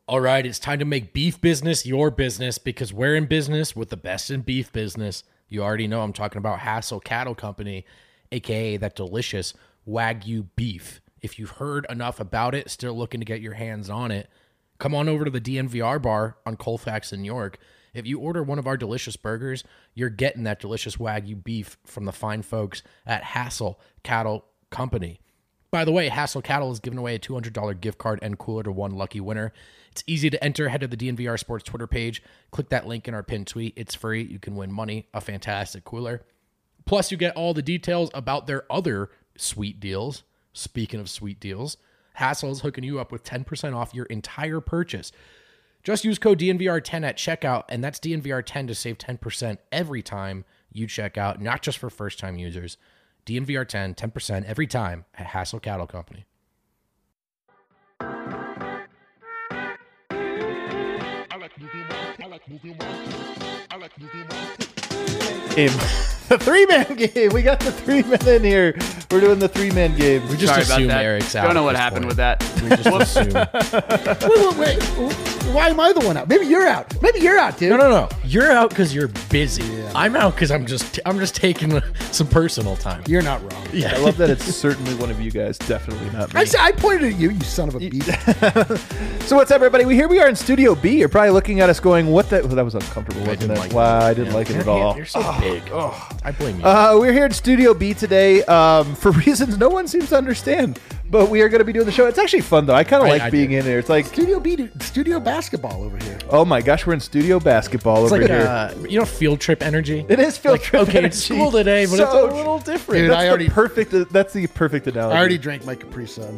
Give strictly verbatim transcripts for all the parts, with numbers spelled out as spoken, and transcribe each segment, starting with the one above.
All right, it's time to make beef business your business because we're in business with the best in beef business. You already know I'm talking about Hassel Cattle Company, a k a that delicious Wagyu beef. If you've heard enough about it, still looking to get your hands on it, come on over to the D N V R bar on Colfax in York. If you order one of our delicious burgers, you're getting that delicious Wagyu beef from the fine folks at Hassel Cattle Company. By the way, Hassel Cattle is giving away a two hundred dollars gift card and cooler to one lucky winner. It's easy to enter. Head to the D N V R Sports Twitter page. Click that link in our pinned tweet. It's free. You can win money, a fantastic cooler. Plus, you get all the details about their other sweet deals. Speaking of sweet deals, Hassel is hooking you up with ten percent off your entire purchase. Just use code D N V R ten at checkout, and that's D N V R ten to save ten percent every time you check out, not just for first-time users. D N V R ten, ten percent every time at Hassel Cattle Company. Game. The three-man game. We got the three men in here. We're doing the three-man game. We just Sorry about assume that. Eric's out. Don't know at what this happened point. with that. We just assume. Wait, wait, wait. Why am I the one out? Maybe you're out. Maybe you're out, dude. No, no, no. You're out because you're busy. I'm out because I'm just I'm just taking some personal time. You're not wrong. Yeah. I love that it's certainly one of you guys, definitely not me. I said I pointed at you, you son of a beef. So what's up, everybody? We here we are in Studio B. You're probably looking at us going, "What the?" Well, that was uncomfortable, wasn't didn't it? like wow, that. I didn't Yeah. like it at You're- all. You're so big. I blame you. Uh, we're here in Studio B today um, for reasons no one seems to understand, but we are going to be doing the show. It's actually fun though. I kind of I- like I being do. in here. It's like, Studio B, dude, studio basketball over here. oh my gosh, we're in studio basketball It's over like here. uh, you know, field trip energy. It is field like, trip okay, energy. it's school today, but So it's a little different. Dude, That's I the already- perfect. That's the perfect analogy. I already drank my Capri Sun.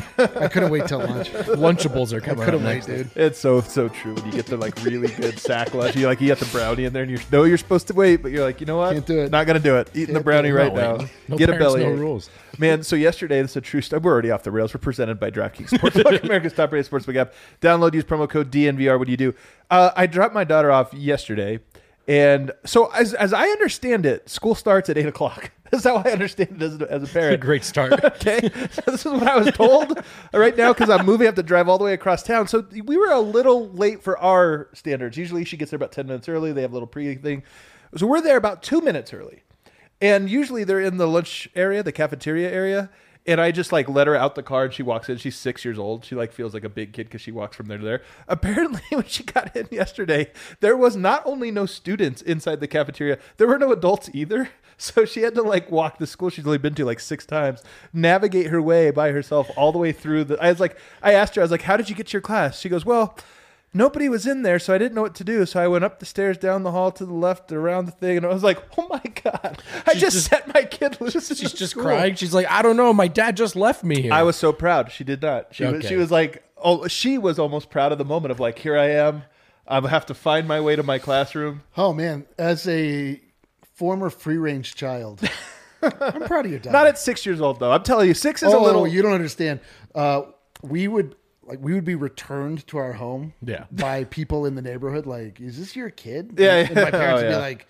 I couldn't wait till lunch. Lunchables are coming. Couldn't up wait, next. dude. It's so so true when you get the like really good sack lunch. You like you got the brownie in there, and you know you're supposed to wait, but you're like, you know what? Can't do it. Not gonna do it. Eating the Can't brownie do it. right No, now. wait. No Get a parents, belly. no rules. Man, so yesterday, this is a true story. We're already off the rails. We're presented by DraftKings Sportsbook, America's top rated sportsbook app. Download, use promo code D N V R. What do you do? Uh, I dropped my daughter off yesterday, and so as as I understand it, school starts at eight o'clock. That's how I understand it as a, as a A parent. great start. Okay, so this is what I was told right now because I'm moving. I have to drive all the way across town. So we were a little late for our standards. Usually she gets there about ten minutes early. They have a little pre thing. So we're there about two minutes early. And usually they're in the lunch area, the cafeteria area. And I just like let her out the car and she walks in. She's six years old. She like feels like a big kid because she walks from there to there. Apparently when she got in yesterday, there was not only no students inside the cafeteria, there were no adults either. So she had to like walk the school she's only been to like six times, navigate her way by herself all the way through the, I was like, I asked her, I was like, how did you get to your class? She goes, well, nobody was in there, so I didn't know what to do. So I went up the stairs, down the hall to the left, around the thing, and I was like, oh my God, I She's just, just- set my kid loose. in She's the just school. crying. She's like, I don't know. My dad just left me here. I was so proud. She did not. She was, Okay. she was like, oh, she was almost proud of the moment of like, here I am. I have to find my way to my classroom. Oh man, as a former free range child, I'm proud of your dad. Not at six years old though. I'm telling you, six is oh, a little. you don't understand. Uh, we would like we would be returned to our home Yeah. by people in the neighborhood. Like, is this your kid? Yeah, and my yeah. parents Oh, would yeah. be like,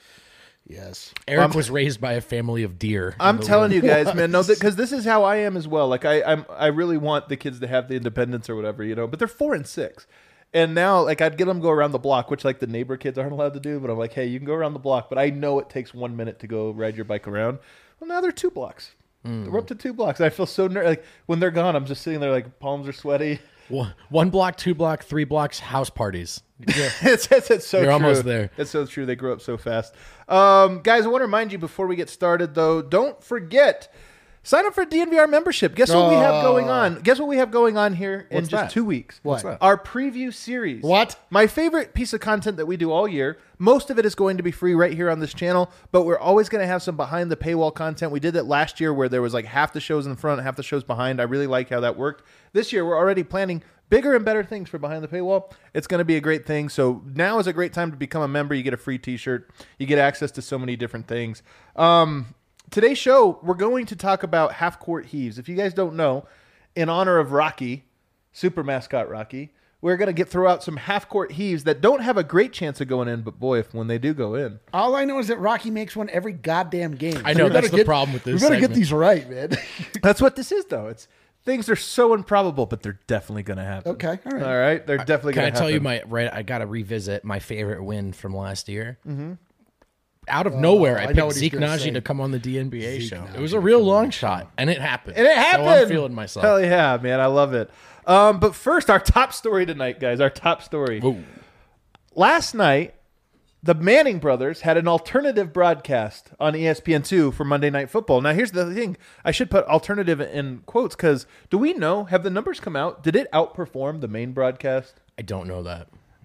yes. Eric was raised by a family of deer. I'm in the telling woods. you guys, man, no, because this is how I am as well. Like I, I'm, I really want the kids to have the independence or whatever, you know. But they're four and six, and now like I'd get them to go around the block, which like the neighbor kids aren't allowed to do. But I'm like, hey, you can go around the block, but I know it takes one minute to go ride your bike around. Well, now they're two blocks. Mm. We're up to two blocks. I feel so ner- like when they're gone, I'm just sitting there like palms are sweaty. One, one block, two block, three blocks, house parties. Yeah. it's, it's, it's so You're true. almost there. It's so true. They grow up so fast. Um, guys, I want to remind you before we get started, though, don't forget, sign up for D N V R membership. Guess what we have going on? Guess what we have going on here in What's just that? two weeks? What's that? Our preview series. What? My favorite piece of content that we do all year. Most of it is going to be free right here on this channel, but we're always going to have some behind the paywall content. We did that last year where there was like half the shows in front, half the shows behind. I really like how that worked. This year, we're already planning bigger and better things for behind the paywall. It's going to be a great thing. So now is a great time to become a member. You get a free t-shirt. You get access to so many different things. Um, today's show, we're going to talk about half-court heaves. If you guys don't know, in honor of Rocky, super mascot Rocky, we're going to get throw out some half-court heaves that don't have a great chance of going in, but boy, if when they do go in. All I know is that Rocky makes one every goddamn game. I know, we that's gotta the get- problem with this We got to get segment. these right, man. That's what this is, though. It's things are so improbable, but they're definitely going to happen. Okay, all right. All right, they're definitely Can going I to happen. tell you my right? I got to revisit my favorite win from last year. Mm-hmm. Out of nowhere, I I know picked what he's Zeke gonna Najee say. to come on the D N B A Zeke show. Najee It was a to real come on long the shot, and it happened. And it happened. So I'm feeling myself. Hell yeah, man. I love it. Um, but first, our top story tonight, guys. Our top story. Ooh. Last night, the Manning brothers had an alternative broadcast on E S P N two for Monday Night Football. Now, here's the thing. I should put alternative in quotes because do we know, have the numbers come out? Did it outperform the main broadcast? I don't know that.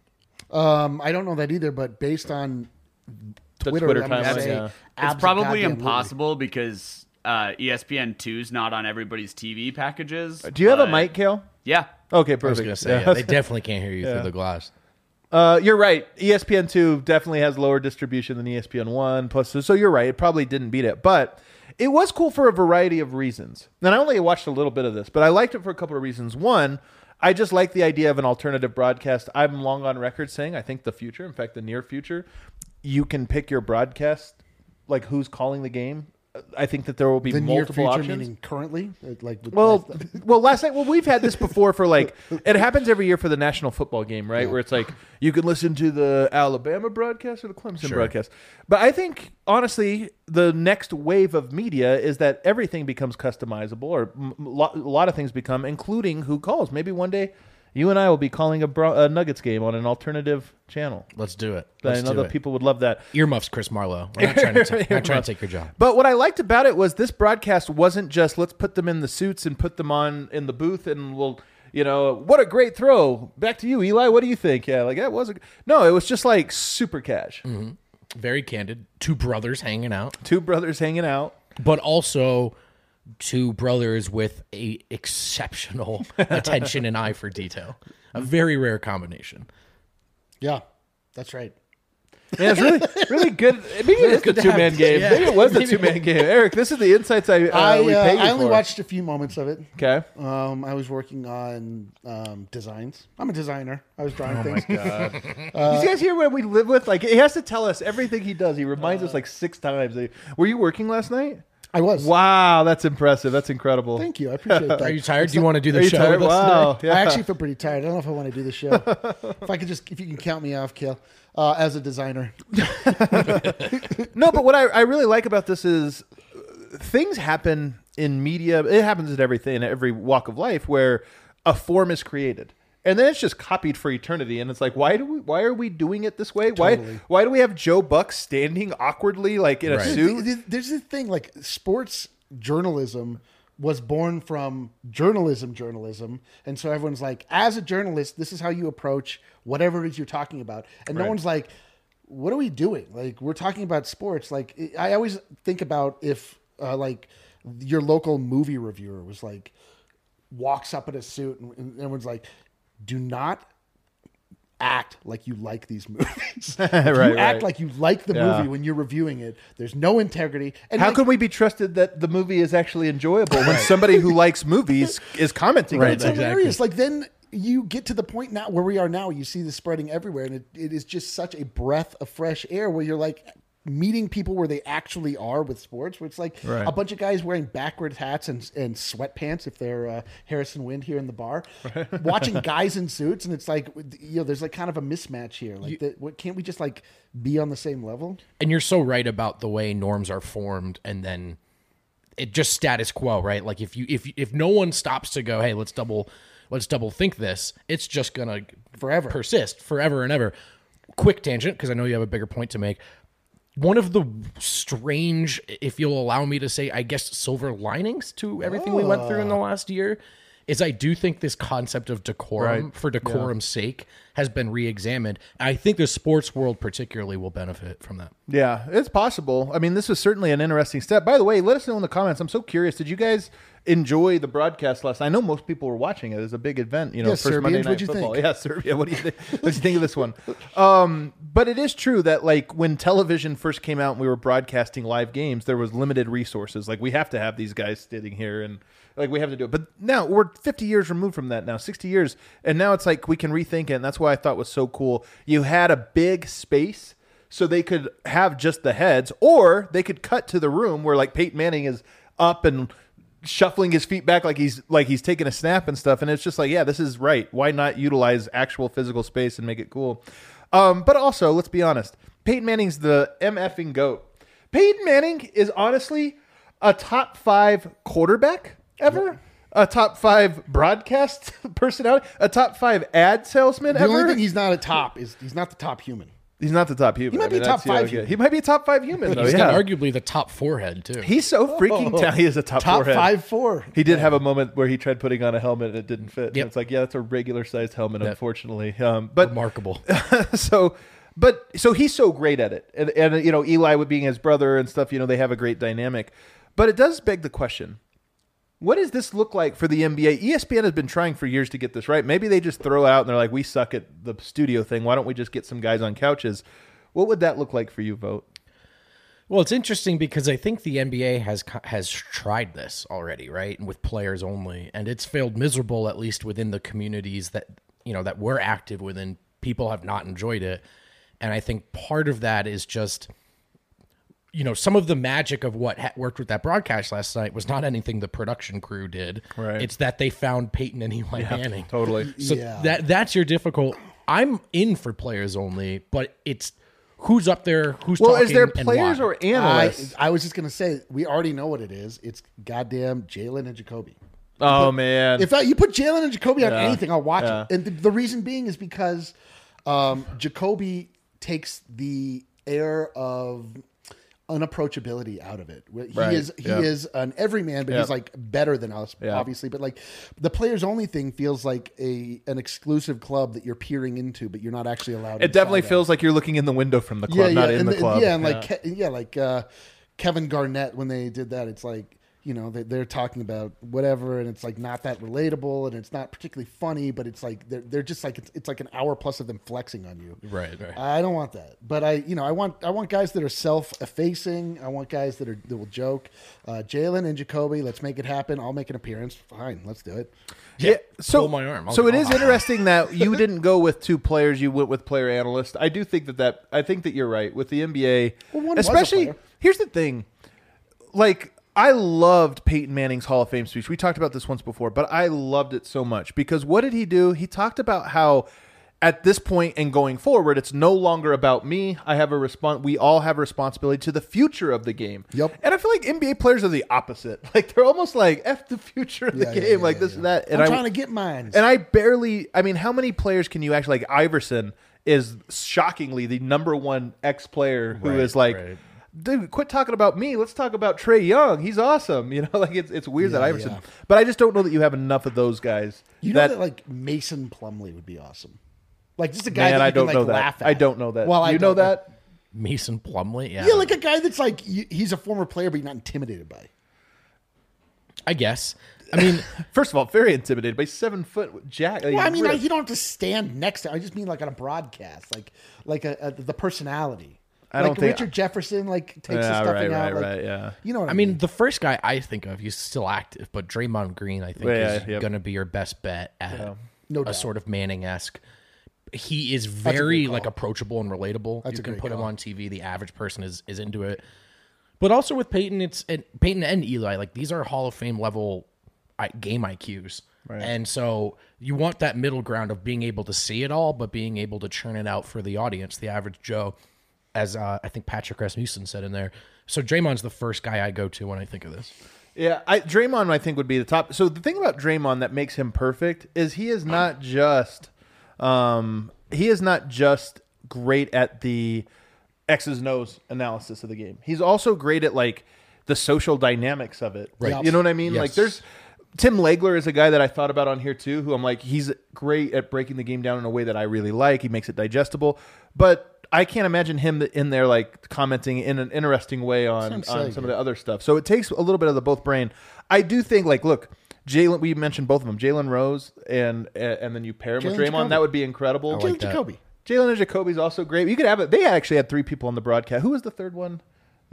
Um, I don't know that either, but based on The Twitter, Twitter I'm gonna timeline, say yeah. It's abso- probably goddamn impossible because uh, E S P N two's not on everybody's T V packages. Do you have a but- mic, Kale? Yeah. Okay, I was perfect. going to say, Yeah. yeah, they definitely can't hear you Yeah. through the glass. Uh, you're right. E S P N two definitely has lower distribution than E S P N one. Plus, so you're right. It probably didn't beat it, but it was cool for a variety of reasons. And I only watched a little bit of this, but I liked it for a couple of reasons. One, I just like the idea of an alternative broadcast. I'm long on record saying I think the future, in fact, the near future, you can pick your broadcast, like who's calling the game. I think that there will be The near multiple future, options. meaning currently, like with Well, last- well, last night, well, we've had this before for like, it happens every year for the national football game, right? Yeah. Where it's like, you can listen to the Alabama broadcast or the Clemson Sure. broadcast. But I think, honestly, the next wave of media is that everything becomes customizable, or m- lo- a lot of things become, including who calls. Maybe one day you and I will be calling a, Bro- a Nuggets game on an alternative channel. Let's do it. I Let's know do that it. people would love that. Earmuffs, Chris Marlowe. We're not trying to, ta- not trying to take your job. But what I liked about it was this broadcast wasn't just let's put them in the suits and put them on in the booth and we'll, you know, what a great throw. Back to you, Eli. What do you think? Yeah, like that was a no. It was just like super cash. Mm-hmm. Very candid. Two brothers hanging out, Two brothers hanging out. but also two brothers with a exceptional attention and eye for detail. A very rare combination. yeah, that's right. Man, it's really, really good. Maybe it is the good to two man have- game. yeah. Maybe it was the two man game. Eric, this is the insights I uh, I, we uh, pay you I only for. watched a few moments of it. Okay. Um, I was working on um, designs. I'm a designer. I was drawing Oh things. my god! you guys hear what we live with? Like he has to tell us everything he does. He reminds us like six times. Were you working last night? I was. Wow, that's impressive. That's incredible. Thank you. I appreciate that. Are you tired? Do you want to do the Are you show tired? with us Wow. today? Yeah. I actually feel pretty tired. I don't know if I want to do the show. if I could just, if you can count me off, Kale, uh, as a designer. No, but what I, I really like about this is uh, things happen in media. It happens in everything, in every walk of life, where a form is created. And then it's just copied for eternity, and it's like, why do we? Why are we doing it this way? Why? Totally. Why do we have Joe Buck standing awkwardly, like in a Right. suit? Th- th- There's this thing like sports journalism was born from journalism journalism, and so everyone's like, as a journalist, this is how you approach whatever it is you're talking about, and no Right. one's like, what are we doing? Like, we're talking about sports. Like, I always think about if uh, like your local movie reviewer was like walks up in a suit and, and everyone's like, do not act like you like these movies. If Right, you right. act like you like the Yeah. movie when you're reviewing it. There's no integrity. And How like, can we be trusted that the movie is actually enjoyable when somebody who likes movies is commenting on Right, it's them? exactly. hilarious. Like then you get to the point now where we are now. You see this spreading everywhere, and it, it is just such a breath of fresh air where you're like meeting people where they actually are with sports. Where it's like Right. a bunch of guys wearing backwards hats and, and sweatpants if they're uh, Harrison Wind here in the bar, watching guys in suits, and it's like you know there's like kind of a mismatch here. Like, the, what can't we just like be on the same level? And you're so right about the way norms are formed, and then it just status quo, right? Like if you if if no one stops to go, hey, let's double let's double think this, it's just gonna Forever. persist forever and ever. Quick tangent, because I know you have a bigger point to make. One of the strange, if you'll allow me to say, I guess, silver linings to everything we went through in the last year is I do think this concept of decorum Right. for decorum's sake has been re-examined. I think the sports world particularly will benefit from that. Yeah, it's possible. I mean, this is certainly an interesting step. By the way, let us know in the comments. I'm so curious. Did you guys enjoy the broadcast last night? I know most people were watching it. It was a big event, you know, Yeah, first Serbians, Monday Night what'd you Football. think? Yeah, Serbia. What do you think? What do you think of this one? Um, but it is true that like when television first came out and we were broadcasting live games, there was limited resources. Like we have to have these guys sitting here and like we have to do it. But now we're fifty years removed from that now, sixty years. And now it's like we can rethink it. And that's why I thought was so cool. You had a big space so they could have just the heads, or they could cut to the room where like Peyton Manning is up and shuffling his feet back like he's like he's taking a snap and stuff. And it's just like, yeah, this is right. Why not utilize actual physical space and make it cool? Um, but also, let's be honest. Peyton Manning's the MFing GOAT. Peyton Manning is honestly a top five quarterback ever. A top five broadcast personality. A top five ad salesman The ever. only thing he's not a top is he's not the top human. He's not the top human. He might I mean, be top that's- yeah, five okay. human. He might be a top five human. Though, He's yeah. got arguably the top forehead too. He's so freaking talented. He is a top, Top forehead. five four. He did have a moment where he tried putting on a helmet and it didn't fit. And Yep. it's like, yeah, that's a regular sized helmet, Yep. unfortunately. Um, but Remarkable. so, but so he's so great at it, and, and you know, Eli with being his brother and stuff, you know, they have a great dynamic. But it does beg the question: what does this look like for the N B A? E S P N has been trying for years to get this right. Maybe they just throw it out and they're like, we suck at the studio thing. Why don't we just get some guys on couches? What would that look like for you, Vote? Well, it's interesting because I think the N B A has has tried this already, right? And with players only, and it's failed miserable, at least within the communities that you know that we're active within. People have not enjoyed it, and I think part of that is just, you know, some of the magic of what ha- worked with that broadcast last night was not anything the production crew did. Right. It's that they found Peyton and Eli Manning. Totally. So Yeah. that that's your difficult. I'm in for players only, but it's who's up there, who's Well, talking, is there and players why. or I, analysts? I was just gonna say we already know what it is. It's goddamn Jalen and Jacoby. oh man, If I, you put Jalen and Jacoby on Yeah. anything, I'll watch Yeah. it. And the, the reason being is because um, Jacoby takes the air of unapproachability out of it. He Right. is he Yeah. is an everyman, but Yeah. he's like better than us, Yeah. obviously. But like the players only thing feels like a an exclusive club that you're peering into, but you're not actually allowed. it definitely inside of. feels like you're looking in the window from the club, not in and the club. Yeah, and like Ke- yeah, like uh, Kevin Garnett when they did that, it's like you know they, they're talking about whatever, and it's like not that relatable, and it's not particularly funny, but it's like they're they're just like it's, it's like an hour plus of them flexing on you. Right, right. I don't want that, but I you know I want I want guys that are self-effacing. I want guys that are that will joke. Uh, Jalen and Jacoby, let's make it happen. I'll make an appearance. Fine, let's do it. Yeah, so pull my arm. I'll- so it I'll- is interesting that you didn't go with two players. You went with player analyst. I do think that that I think that you're right with the N B A, Well, one was a especially. player. Here's the thing, like I loved Peyton Manning's Hall of Fame speech. We talked about this once before, but I loved it so much because what did he do? He talked about how at this point and going forward, it's no longer about me. I have a respons- We all have a responsibility to the future of the game. Yep. And I feel like N B A players are the opposite. Like they're almost like F the future of Yeah, the yeah, game, yeah, like yeah, this yeah. and that. And I'm I, trying to get mine. and I barely, I mean, how many players can you actually, like Iverson is shockingly the number one ex player who Right, is like, right. dude, quit talking about me. Let's talk about Trey Young. He's awesome. You know, like it's, it's weird that Yeah, Iverson, yeah. but I just don't know that you have enough of those guys. You know that, that, like Mason Plumlee would be awesome. Like just a guy man, that you I don't can, know like, that. laugh at. I don't know that. Well, I you know don't that? Mason Plumlee, yeah. Yeah, like a guy that's like y- he's a former player, but you're not intimidated by. I guess. I mean, First of all, very intimidated by seven foot Jack. Well, I mean, like, you don't have to stand next to. I just mean like on a broadcast, like like a, a the personality. I like don't think- Richard Jefferson like takes the Yeah, stuffing right, out. right, like, right, yeah. You know what I, I mean, the first guy I think of, he's still active, but Draymond Green, I think, Yeah, is yep. going to be your best bet at No a doubt. sort of Manning-esque. He is a very good call. like approachable and relatable. That's you a can great put him call. on T V. The average person is is into it. But also with Peyton, it's and Peyton and Eli. Like these are Hall of Fame level I- game I Qs, and so you want that middle ground of being able to see it all, but being able to churn it out for the audience, the average Joe. As uh, I think Patrick Rasmussen said in there. So Draymond's the first guy I go to when I think of this. Yeah, I, Draymond, I think, would be the top. So the thing about Draymond that makes him perfect is he is not just, um, he is not just great at the X's and O's analysis of the game. He's also great at like the social dynamics of it. Right. You know what I mean? Yes. Like there's Tim Legler is a guy that I thought about on here too, who I'm like, he's great at breaking the game down in a way that I really like. He makes it digestible, but I can't imagine him in there like commenting in an interesting way on, Sounds on silly. some of the other stuff. So it takes a little bit of the both brain. I do think like, look, Jalen, we mentioned both of them, Jalen Rose and and then you pair him with Jalen Draymond. Jacoby. That would be incredible. I Jalen like that. Jacoby. Jalen and Jacoby's also great. You could have it. They actually had three people on the broadcast. Who was the third one?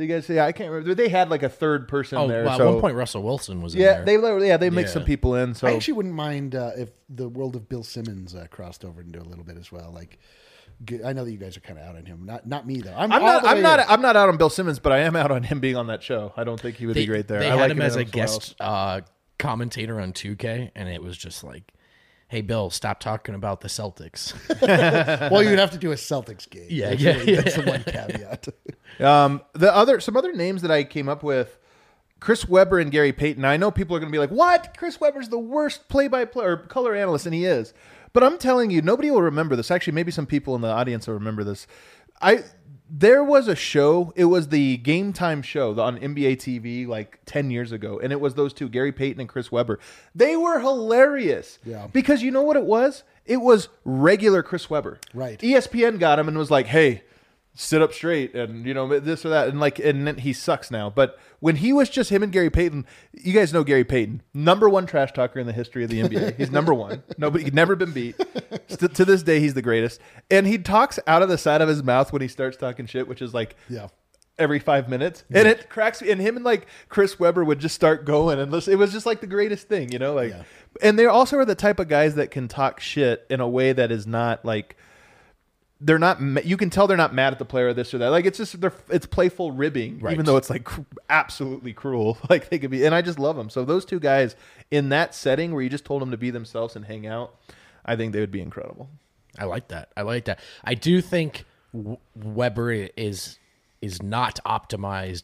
Did you guys say? I can't remember. They had like a third person Oh, there. well, so. at one point Russell Wilson was in yeah, there. they literally- yeah they make Yeah. some people in. So I actually wouldn't mind uh, if the world of Bill Simmons uh, crossed over into a little bit as well. Like, g- I know that you guys are kind of out on him. Not not me though. I'm, I'm all not. the I'm way not. in. I'm not out on Bill Simmons, but I am out on him being on that show. I don't think he would they, be great there. They I had like him as a somewhere else. guest uh, commentator on two K, and it was just like, "Hey, Bill, stop talking about the Celtics." Well, you'd have to do a Celtics game. Yeah, that's yeah, really- That's yeah. the one caveat. Um, the other some other names that I came up with: Chris Webber and Gary Payton. I know people are going to be like, "What? Chris Webber's the worst play-by-play or color analyst," and he is. But I'm telling you, nobody will remember this. Actually, maybe some people in the audience will remember this. I there was a show. It was the Game Time show on N B A T V like ten years ago, and it was those two, Gary Payton and Chris Webber. They were hilarious. Yeah. Because you know what it was? It was regular Chris Webber. Right. E S P N got him and was like, "Hey, sit up straight," and you know this or that, and like, and then he sucks now. But when he was just him and Gary Payton, you guys know Gary Payton, number one trash talker in the history of the N B A. He's number one. Nobody, he'd never been beat. St- to this day, he's the greatest. And he talks out of the side of his mouth when he starts talking shit, which is like, Yeah. every five minutes, and it cracks me. And him and like Chris Webber would just start going, and listen, it was just like the greatest thing, you know. Like, Yeah. and they also are the type of guys that can talk shit in a way that is not like they're not. ma- You can tell they're not mad at the player or this or that. Like it's just they're it's playful ribbing, Right. even though it's like cr- absolutely cruel. Like they could be, and I just love them. So those two guys in that setting where you just told them to be themselves and hang out, I think they would be incredible. I like that. I like that. I do think W- Weber is is not optimized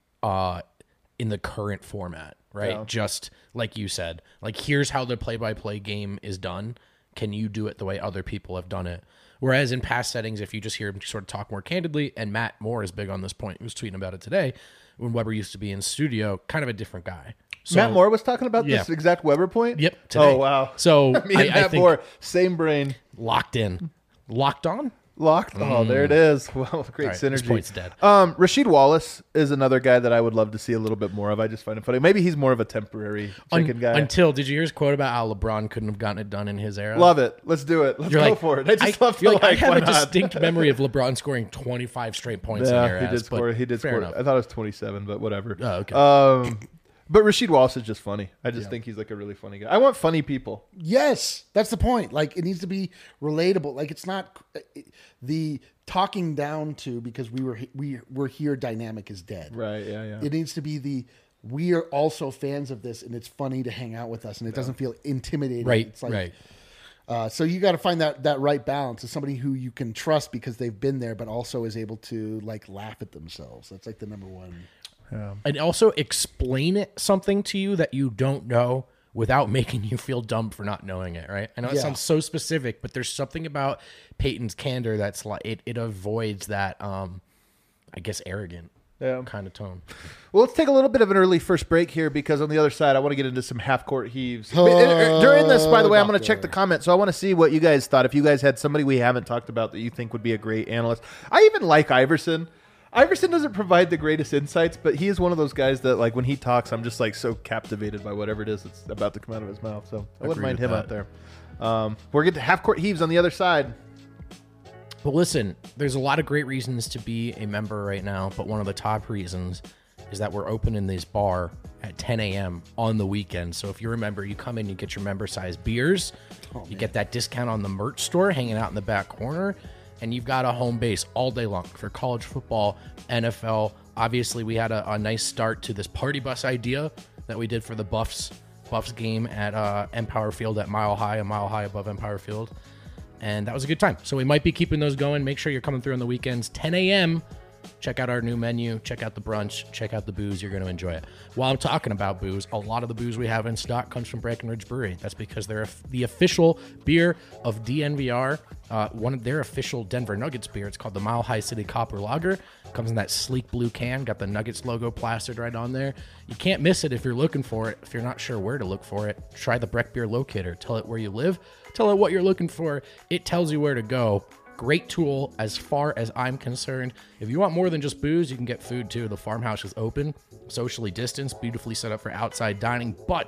uh, in the current format, right? Yeah. Just like you said, like here's how the play-by-play game is done. Can you do it the way other people have done it? Whereas in past settings, if you just hear him sort of talk more candidly, and Matt Moore is big on this point, he was tweeting about it today, when Weber used to be in studio, kind of a different guy. So, Matt Moore was talking about yeah. this exact Weber point. Yep. Today. Oh wow. So Me I, and I Matt think Moore, same brain. locked in, locked on. Locked. Oh, there it is. Well, great All right, this synergy. point's dead. Um, Rasheed Wallace is another guy that I would love to see a little bit more of. I just find it funny. Maybe he's more of a temporary Un- chicken guy. Until did you hear his quote about how LeBron couldn't have gotten it done in his era? love it. Let's do it. Let's You're go like, for it. I just love to you're like. like, I have why a not? distinct memory of LeBron scoring twenty-five straight points in Yeah, their he ass, did score. but He did fair score. enough. I thought it was twenty-seven, but whatever. Oh, okay. Um, but Rasheed Wallace is just funny. I just think he's like a really funny guy. I want funny people. Yes, that's the point. Like it needs to be relatable. Like it's not the talking down to because we were we we're here. Dynamic is dead. Right. Yeah. Yeah. It needs to be the we are also fans of this, and it's funny to hang out with us, and it doesn't feel intimidating. Right, It's like, right. Uh, so you got to find that that right balance of somebody who you can trust because they've been there, but also is able to like laugh at themselves. That's like the number one. And also explain it something to you that you don't know without making you feel dumb for not knowing it, right? I know it Yeah. sounds so specific, but there's something about Peyton's candor that's like it, it avoids that um I guess arrogant Yeah. kind of tone. Well, let's take a little bit of an early first break here because on the other side, I want to get into some half court heaves. During this, by the way, I'm going to check the comments. So I want to see what you guys thought. If you guys had somebody we haven't talked about that you think would be a great analyst. I even like Iverson. Iverson doesn't provide the greatest insights, but he is one of those guys that, like, when he talks, I'm just like so captivated by whatever it is that's about to come out of his mouth. So I wouldn't Agree mind with him out that. there. Um, we're getting to half court heaves on the other side. But listen, there's a lot of great reasons to be a member right now, but one of the top reasons is that we're opening this bar at ten a.m. on the weekend. So if you're a member, you come in, you get your member-sized beers, you get that discount on the merch store hanging out in the back corner, and you've got a home base all day long for college football, N F L. Obviously, we had a, a nice start to this party bus idea that we did for the Buffs Buffs game at uh, Empower Field at Mile High, a mile high above Empower Field. And that was a good time. So we might be keeping those going. Make sure you're coming through on the weekends, ten a.m. Check out our new menu. Check out the brunch. Check out the booze. You're going to enjoy it. While I'm talking about booze, a lot of the booze we have in stock comes from Breckenridge Brewery. That's because they're the official beer of D N V R. Uh, one of their official Denver Nuggets beer. It's called the Mile High City Copper Lager. Comes in that sleek blue can. Got the Nuggets logo plastered right on there. You can't miss it if you're looking for it. If you're not sure where to look for it, try the Breck Beer Locator. Tell it where you live. Tell it what you're looking for. It tells you where to go. Great tool as far as I'm concerned. If you want more than just booze, you can get food too. The farmhouse is open, socially distanced, beautifully set up for outside dining. But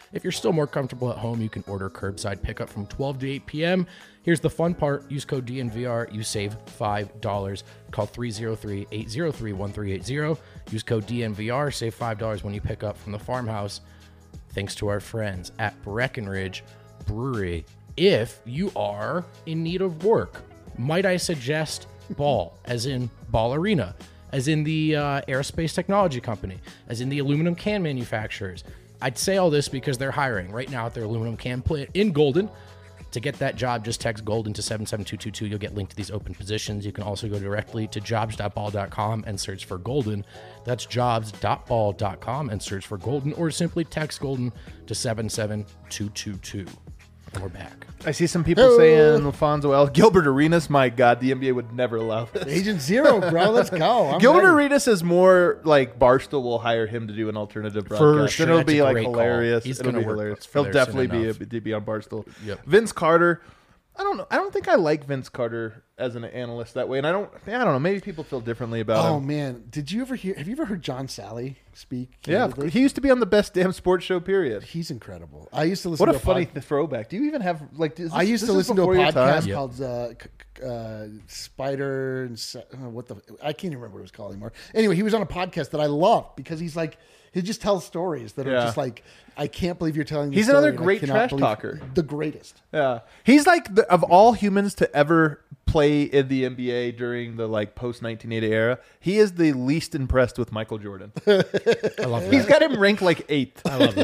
If you're still more comfortable at home, you can order curbside pickup from twelve to eight p.m. Here's the fun part. Use code D N V R. You save five dollars. Call three oh three, eight oh three, one three eight zero. Use code D N V R. Save five dollars when you pick up from the farmhouse. Thanks to our friends at Breckenridge Brewery. If you are in need of work, might I suggest Ball, as in Ball Arena, as in the uh, aerospace technology company, as in the aluminum can manufacturers. I'd say all this because they're hiring right now at their aluminum can plant in Golden. To get that job, just text Golden to seven seven two two two. You'll get linked to these open positions. You can also go directly to jobs dot ball dot com and search for Golden. That's jobs dot ball dot com and search for Golden, or simply text Golden to seven seven two two two. And we're back. I see some people saying Alfonso El Gilbert Arenas. My God, the N B A would never allow this. Agent Zero, bro. Let's go. I'm Gilbert ready. Arenas is more like Barstool will hire him to do an alternative broadcast. sure. And it'll That's be a like great call. hilarious. He's it'll gonna be work hilarious. for He'll there soon definitely be, a, enough. be on Barstool. Yep. Vince Carter. I don't know. I don't think I like Vince Carter as an analyst that way, and I don't. I don't know. Maybe people feel differently about Oh him. man, did you ever hear? Have you ever heard John Sally speak? Yeah, candidly? he used to be on the Best Damn Sports Show. Period. He's incredible. I used to listen. What to a funny pod- th- throwback. Do you even have like? Is this, I used this to is listen to a before your time? podcast Yep. called uh, c- c- uh, Spider and Se- uh, what the I can't even remember what it was called anymore. Anyway, he was on a podcast that I loved because he's like he just tells stories that are Yeah. just like I can't believe you're telling. This He's story another and I great cannot trash believe- talker. The greatest. Yeah, he's like the, of all humans to ever play in the N B A during the like post nineteen eighty era. He is the least impressed with Michael Jordan. I love that. He's got him ranked like eighth. I love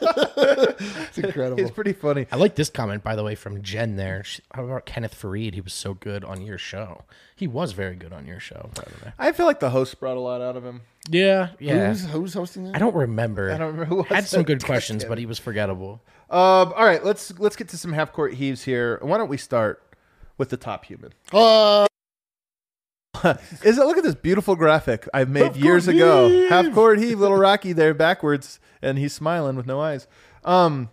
that. It's incredible. He's pretty funny. I like this comment, by the way, from Jen there. She, how about Kenneth Fareed? He was so good on your show. He was very good on your show, by the way. I feel like the host brought a lot out of him. Yeah, yeah. Who's, who's hosting that? I don't remember. I don't remember who was Had some that. good questions, but he was forgettable. Um, all right, let's let's get to some half court heaves here. Why don't we start with the top human? Uh, Is it? Look at this beautiful graphic I've made years ago. Half court heave, little Rocky there backwards, and he's smiling with no eyes. Um,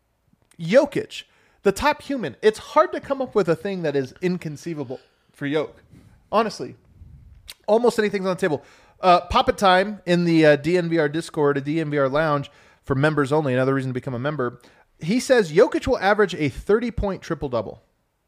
Jokic, the top human. It's hard to come up with a thing that is inconceivable for Jokic. Honestly, almost anything's on the table. Uh, Pop It Time in the uh, D N V R Discord, a D N V R lounge for members only. Another reason to become a member. He says Jokic will average a thirty-point triple-double.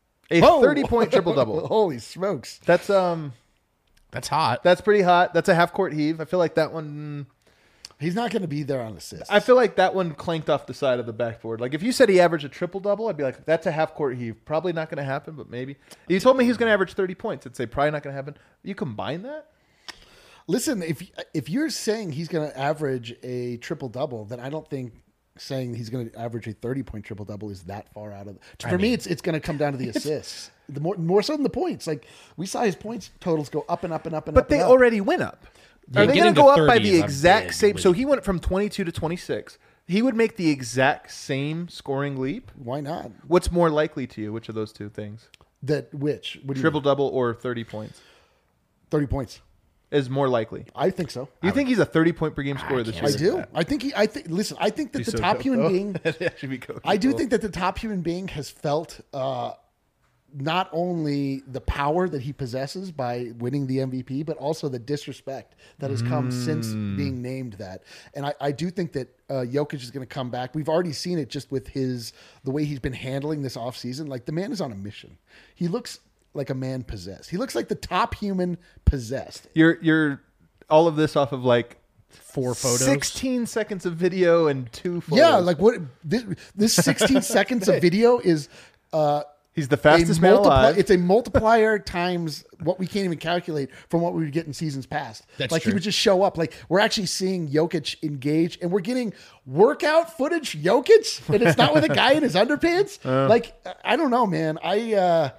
A oh. thirty-point triple-double. Holy smokes! That's um. That's hot. That's pretty hot. That's a half court heave. I feel like that one. He's not going to be there on assists. I feel like that one clanked off the side of the backboard. Like if you said he averaged a triple double, I'd be like, that's a half court heave. Probably not going to happen, but maybe. If you told me he was going to average thirty points, I'd say probably not going to happen. You combine that? Listen, if if you're saying he's going to average a triple double, then I don't think saying he's going to average a thirty point triple double is that far out of. For I me, mean- it's it's going to come down to the assists. The more more so than the points. Like we saw his points totals go up and up and up and But up. they and up. already went up. Yeah, Are they getting going to to go up by thirty the is a exact big same? So leap. he went from twenty-two to twenty-six. He would make the exact same scoring leap. Why not? What's more likely to you? Which of those two things? That which what do you Triple double or thirty points thirty points. is more likely. I think so. You think he's a thirty point per game scorer this year? can't I do. I think he. I think. Listen. I think that the so top dope, human though. being. That should be cool. I do think that the top human being has felt uh, not only the power that he possesses by winning the M V P, but also the disrespect that has come since being named that. And I, I do think that uh, Jokic is going to come back. We've already seen it just with his the way he's been handling this offseason. Like the man is on a mission. He looks like a man possessed. He looks like the top human possessed. You're you're all of this off of like Four photos. sixteen seconds of video and two photos. Yeah, like what this, this sixteen seconds of video is. Uh, he's the a fastest man multipli- alive. It's a multiplier times what we can't even calculate from what we would get in seasons past. That's like true. he would just show up. Like we're actually seeing Jokic engage, and we're getting workout footage Jokic, and it's not with a guy in his underpants. like I don't know, man. I uh,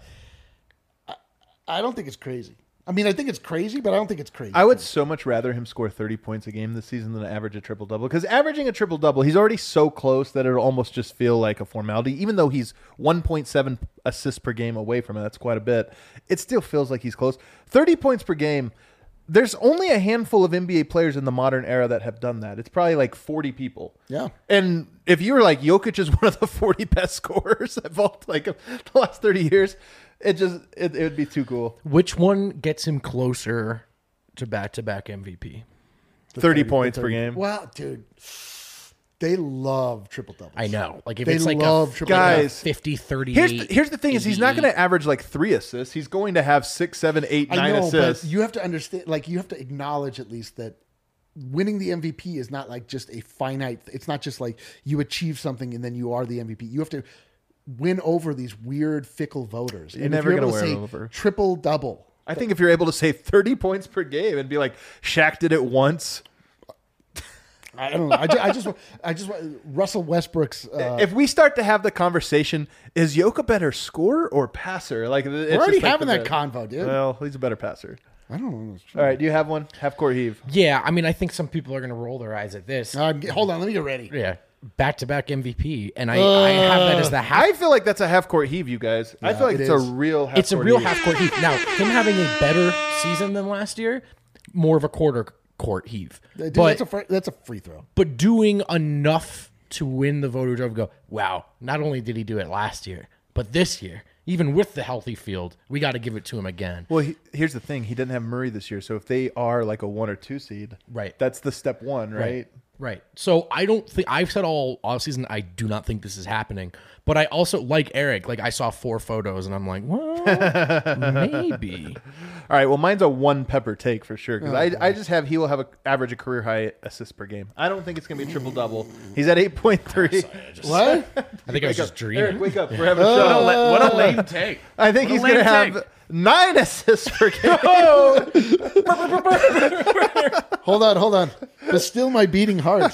I, I don't think it's crazy. I mean, I think it's crazy, but I don't think it's crazy. I would so much rather him score thirty points a game this season than average a triple double. Because averaging a triple double, he's already so close that it'll almost just feel like a formality. Even though he's one point seven assists per game away from it, that's quite a bit. It still feels like he's close. thirty points per game. There's only a handful of N B A players in the modern era that have done that. It's probably like forty people. Yeah. And if you were like Jokic is one of the forty best scorers of all like the last thirty years, it just it, it would be too cool. Which one gets him closer to back-to-back M V P? thirty thirty points per thirty game. Well, dude, They love triple doubles. I know. Like if They it's like love a, triple like a Guys, fifty thirty-eight. Here's the, here's the thing: is he's not going eighty-eight. to average like three assists. He's going to have six, seven, eight, I nine know, assists. but you have to understand. Like you have to acknowledge at least that winning the M V P is not like just a finite. It's not just like you achieve something and then you are the M V P. You have to win over these weird fickle voters. You're And never if you're gonna able to win say over. triple double. I think if you're able to say thirty points per game and be like, Shaq did it once. I don't know. I just, I just, I just Russell Westbrook's. Uh, If we start to have the conversation, is Jokic a better scorer or passer? Like we're already having that convo, dude. Well, he's a better passer. I don't know. All right, do you have one? Half court heave. Yeah, I mean, I think some people are going to roll their eyes at this. Uh, hold on, let me get ready. Yeah, back to back M V P, and I, I have that as the half. I feel like that's a half court heave, you guys. I feel like it it's is. a real half it's a court real heave. half court heave. Now, him having a better season than last year, more of a quarter court heave. Dude, but that's a fr- that's a free throw. but doing enough to win the voter drive. Go, wow! Not only did he do it last year, but this year, even with the healthy field, we got to give it to him again. Well, he, here's the thing: he didn't have Murray this year, so if they are like a one or two seed, Right. That's the step one, right? Right. So I don't think I've said all all season I do not think this is happening. But I also like Eric. Like I saw four photos and I'm like, well, maybe. All right. Well, mine's a one pepper take for sure because Oh, I, I just have he will have a average a career high assist per game. I don't think it's gonna be a triple double. He's at eight point three. What? I think I was just dreaming. Eric, wake up. We're having a What a, show. la- what a lame take. I think What a he's gonna lame have take. nine assists per game. Hold on, hold on. But still, my beating heart.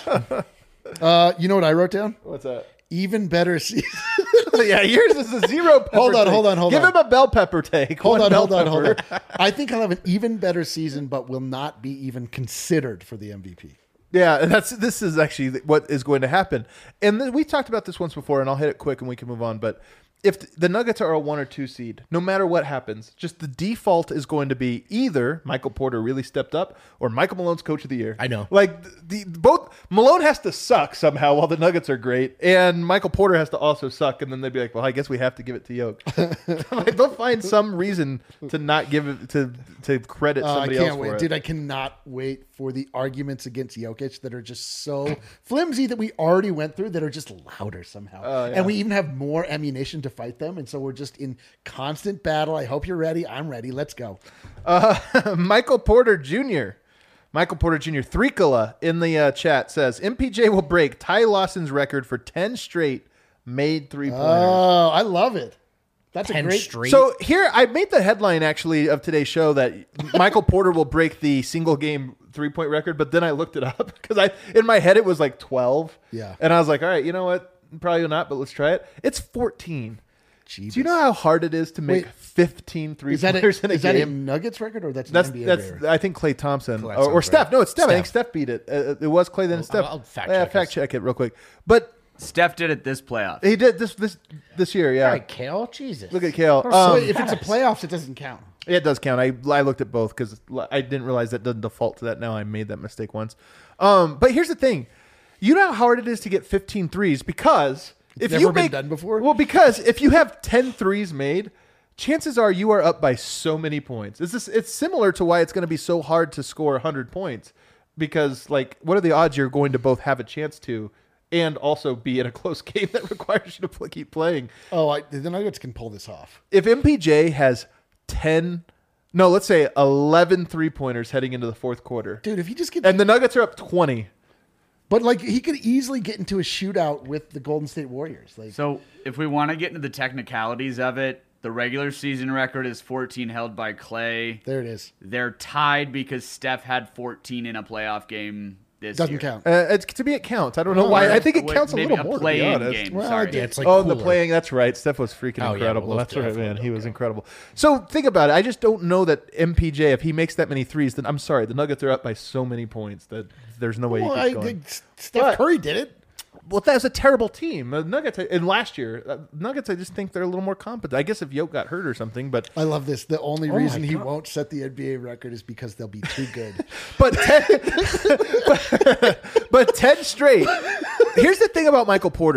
Uh, you know what I wrote down? What's that? Even better season. Yeah, yours is a zero pepper. Hold on, take. hold on, hold Give on. him a bell pepper take. Hold One on, bell hold on, hold pepper. on. I think I'll have an even better season, but will not be even considered for the M V P. Yeah, and that's this is actually what is going to happen. And th- we talked about this once before, and I'll hit it quick and we can move on. But if th- the Nuggets are a one or two seed, no matter what happens, just the default is going to be either Michael Porter really stepped up or Michael Malone's coach of the year. I know. Like the, the both Malone has to suck somehow while the Nuggets are great, and Michael Porter has to also suck, and then they'd be like, well, I guess we have to give it to Jokic. Like, they'll find some reason to not give it to to credit Uh, I somebody can't else for wait, it. dude. I cannot wait for the arguments against Jokic that are just so flimsy that we already went through that are just louder somehow, Oh, yeah. and we even have more ammunition to fight them, and so we're just in constant battle. I hope you're ready. I'm ready. Let's go. Uh, Michael Porter Junior Michael Porter Junior Threekala in the uh, chat says M P J will break Ty Lawson's record for ten straight made three pointers. Oh, I love it. That's a Ten great. straight. So here, I made the headline actually of today's show that Michael Porter will break the single game three point record, but then I looked it up because I in my head it was like twelve. Yeah. and I was like, all right, you know what? Probably not, but let's try it. It's fourteen. Jeebus. Do you know how hard it is to make Wait. fifteen three Is that, a, pointers in a is that a game? Nuggets record or that's an That's N B A that's record? I think Klay Thompson Klay or, or sounds Steph. right. No, it's Steph. I think Steph. Steph beat it. Uh, it was Klay then I'll- Steph. I'll fact yeah, check fact us. check it real quick. But Steph did it this playoff. he did this this this year. Yeah, all right, Kale. Jesus. look at Kale. We're Um, so Wait, if it's a fast. playoffs, it doesn't count. Yeah, it does count. I I looked at both because I didn't realize that doesn't default to that. Now I made that mistake once. Um, but here's the thing: you know how hard it is to get fifteen threes because if never you been make done before? Well, because if you have ten threes made, chances are you are up by so many points. It's just, it's similar to why it's going to be so hard to score one hundred points because like what are the odds you're going to both have a chance to and also be in a close game that requires you to play, keep playing. Oh, I, the Nuggets can pull this off. If M P J has ten, no, let's say eleven three-pointers heading into the fourth quarter, Dude, if he just gets and the Nuggets are up twenty. But like he could easily get into a shootout with the Golden State Warriors. Like So if we want to get into the technicalities of it, the regular season record is fourteen held by Clay. there it is. They're tied because Steph had fourteen in a playoff game this Doesn't year. count. Uh, it's, to me, it counts. I don't know why. I think it Wait, counts a maybe little more. To be play-in honest. game. Well, Sorry. I Yeah, it's like oh, the cooler. playing. That's right. Steph was freaking Oh, yeah, incredible. well, that's right, definitely man. He was different. incredible. So think about it. I just don't know that M P J, if he makes that many threes, then I'm sorry. The Nuggets are up by so many points that there's no way Well, he I keeps going. think Steph But- Curry did it. Well, that was a terrible team. The Nuggets, and last year, uh, Nuggets, I just think they're a little more competent. I guess if Yoke got hurt or something, but I love this. The only my reason he God. won't set the N B A record is because they'll be too good. but ten, but, but ten straight. Here's the thing about Michael Porter.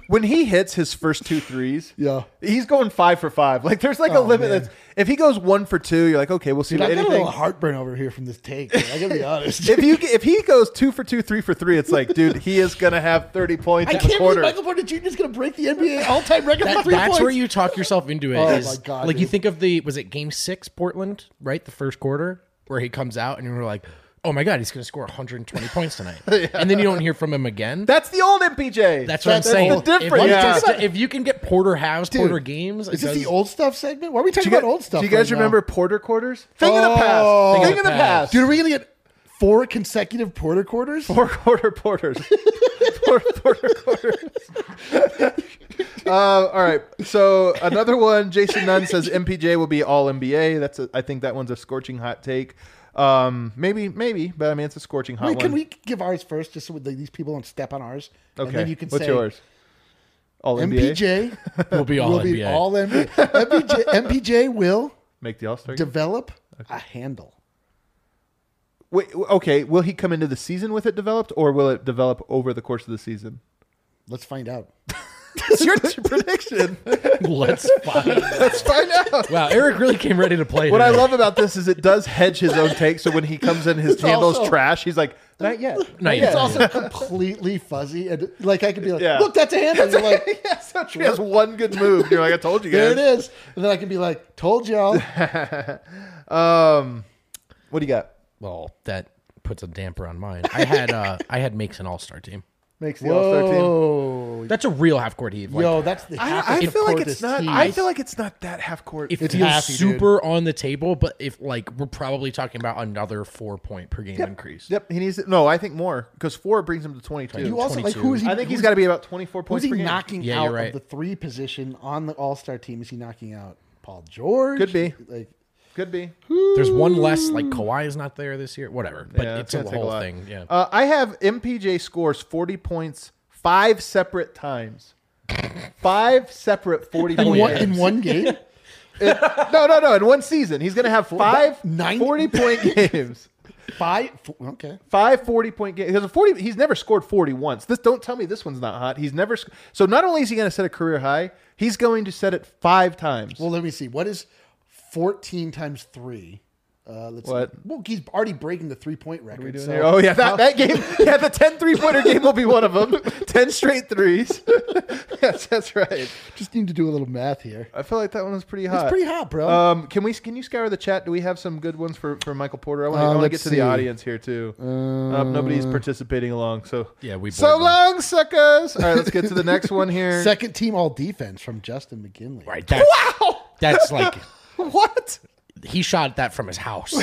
when he hits his first two threes, Yeah. he's going five for five. Like there's like a Oh, limit. man. That's if he goes one for two, you're like, okay, we'll see Dude, what I got a anything. little heartburn over here from this take. man. I gotta be honest. If you if he goes two for two, three for three, it's like, dude, he is gonna have thirty points I in the can't believe quarter. Michael Porter Junior is going to break the N B A all-time record for That, three that's points. where you talk yourself into it. Oh, is, my God, like you dude. think of the was it game six Portland, right? The first quarter where he comes out and you're like, oh my God, he's going to score one hundred twenty points tonight. And then you don't hear from him again. That's the old M P J. That's what I'm That's saying. the If, difference. you Yeah. can st- if you can get Porter halves, Dude, Porter games, it Is this does- the old stuff segment? Why are we Do talking you, about guys, old stuff? do you guys right remember now? Porter quarters? Thing of the Oh. past. Thing Thing of of the the past. past. Dude, are we going to get four consecutive Porter quarters? Four quarter porters. Four quarter quarters. uh, all right. So another one. Jason Nunn says M P J will be all N B A. That's a, I think that one's a scorching hot take. Um, maybe, maybe, but I mean it's a scorching hot Wait, one. can we give ours first, just so like, these people don't step on ours? Okay. And then you can What's say yours? All M N B A. P J will be all will N B A. be all N B A. M P J, M P J will Make the All Star. develop a handle. Wait. Okay. Will he come into the season with it developed, or will it develop over the course of the season? Let's find out. It's your prediction. Let's find. Let's find out. Wow, Eric really came ready to play. What I today. love about this is it does hedge his own take. So when he comes in, his handle's also- trash. He's like, not yet. Not It's yet. also completely fuzzy, and like I could be like, Yeah. "Look, that's a handle." And you're like, yeah, so true. He has one good move. You're like, I told you "There guys. it is," and then I can be like, "Told y'all." Um, what do you got? Well, that puts a damper on mine. I had uh I had makes an all star team. Makes the All Star team. Whoa, That's a real half court heave. Like, yo, that's the. I, half I of feel like court it's this not. team. I feel like it's not that half court. it It's feels happy, dude. super on the table, but if like we're probably talking about another four point per game increase. Yep, he needs. To, no, I think more because four brings him to twenty-two. you also like twenty-two. who is he? I think he's who's- got to be about twenty-four Who's points he per game. knocking Yeah, out you're right. of the three position on the All Star team? Is he knocking out Paul George? Could be. Like, Could be. There's one less. Like Kawhi is not there this year. Whatever, but Yeah, it's it's a gonna take a whole lot. thing. Yeah. Uh, I have M P J scores forty points five separate times. Five separate forty in point one, games. in one game. No, no, no. In one season, he's going to have five nine- forty point games. Five. f- Okay. Five forty point games. He has a forty. He's never scored forty once. This don't tell me this one's not hot. He's never. sc- So not only is he going to set a career high, he's going to set it five times. Well, let me see. What is fourteen times three? Uh, let's What? See. Well, he's already breaking the three point record. What are we doing so- here? Oh yeah, that, that game. Yeah, the ten three pointer game will be one of them. Ten straight threes. Yes, that's right. Just need to do a little math here. I feel like that one was pretty hot. It's pretty hot, bro. Um, can we? Can you scour the chat? Do we have some good ones for, for Michael Porter? I want to Uh, I want to let's get to see. the audience here too. Um, nobody's participating along, so Yeah, we So bored them. long, suckers. All right, let's get to the next one here. Second team all defense from Justin McKinley. Right. That's, Wow. That's like What? he shot that from his house.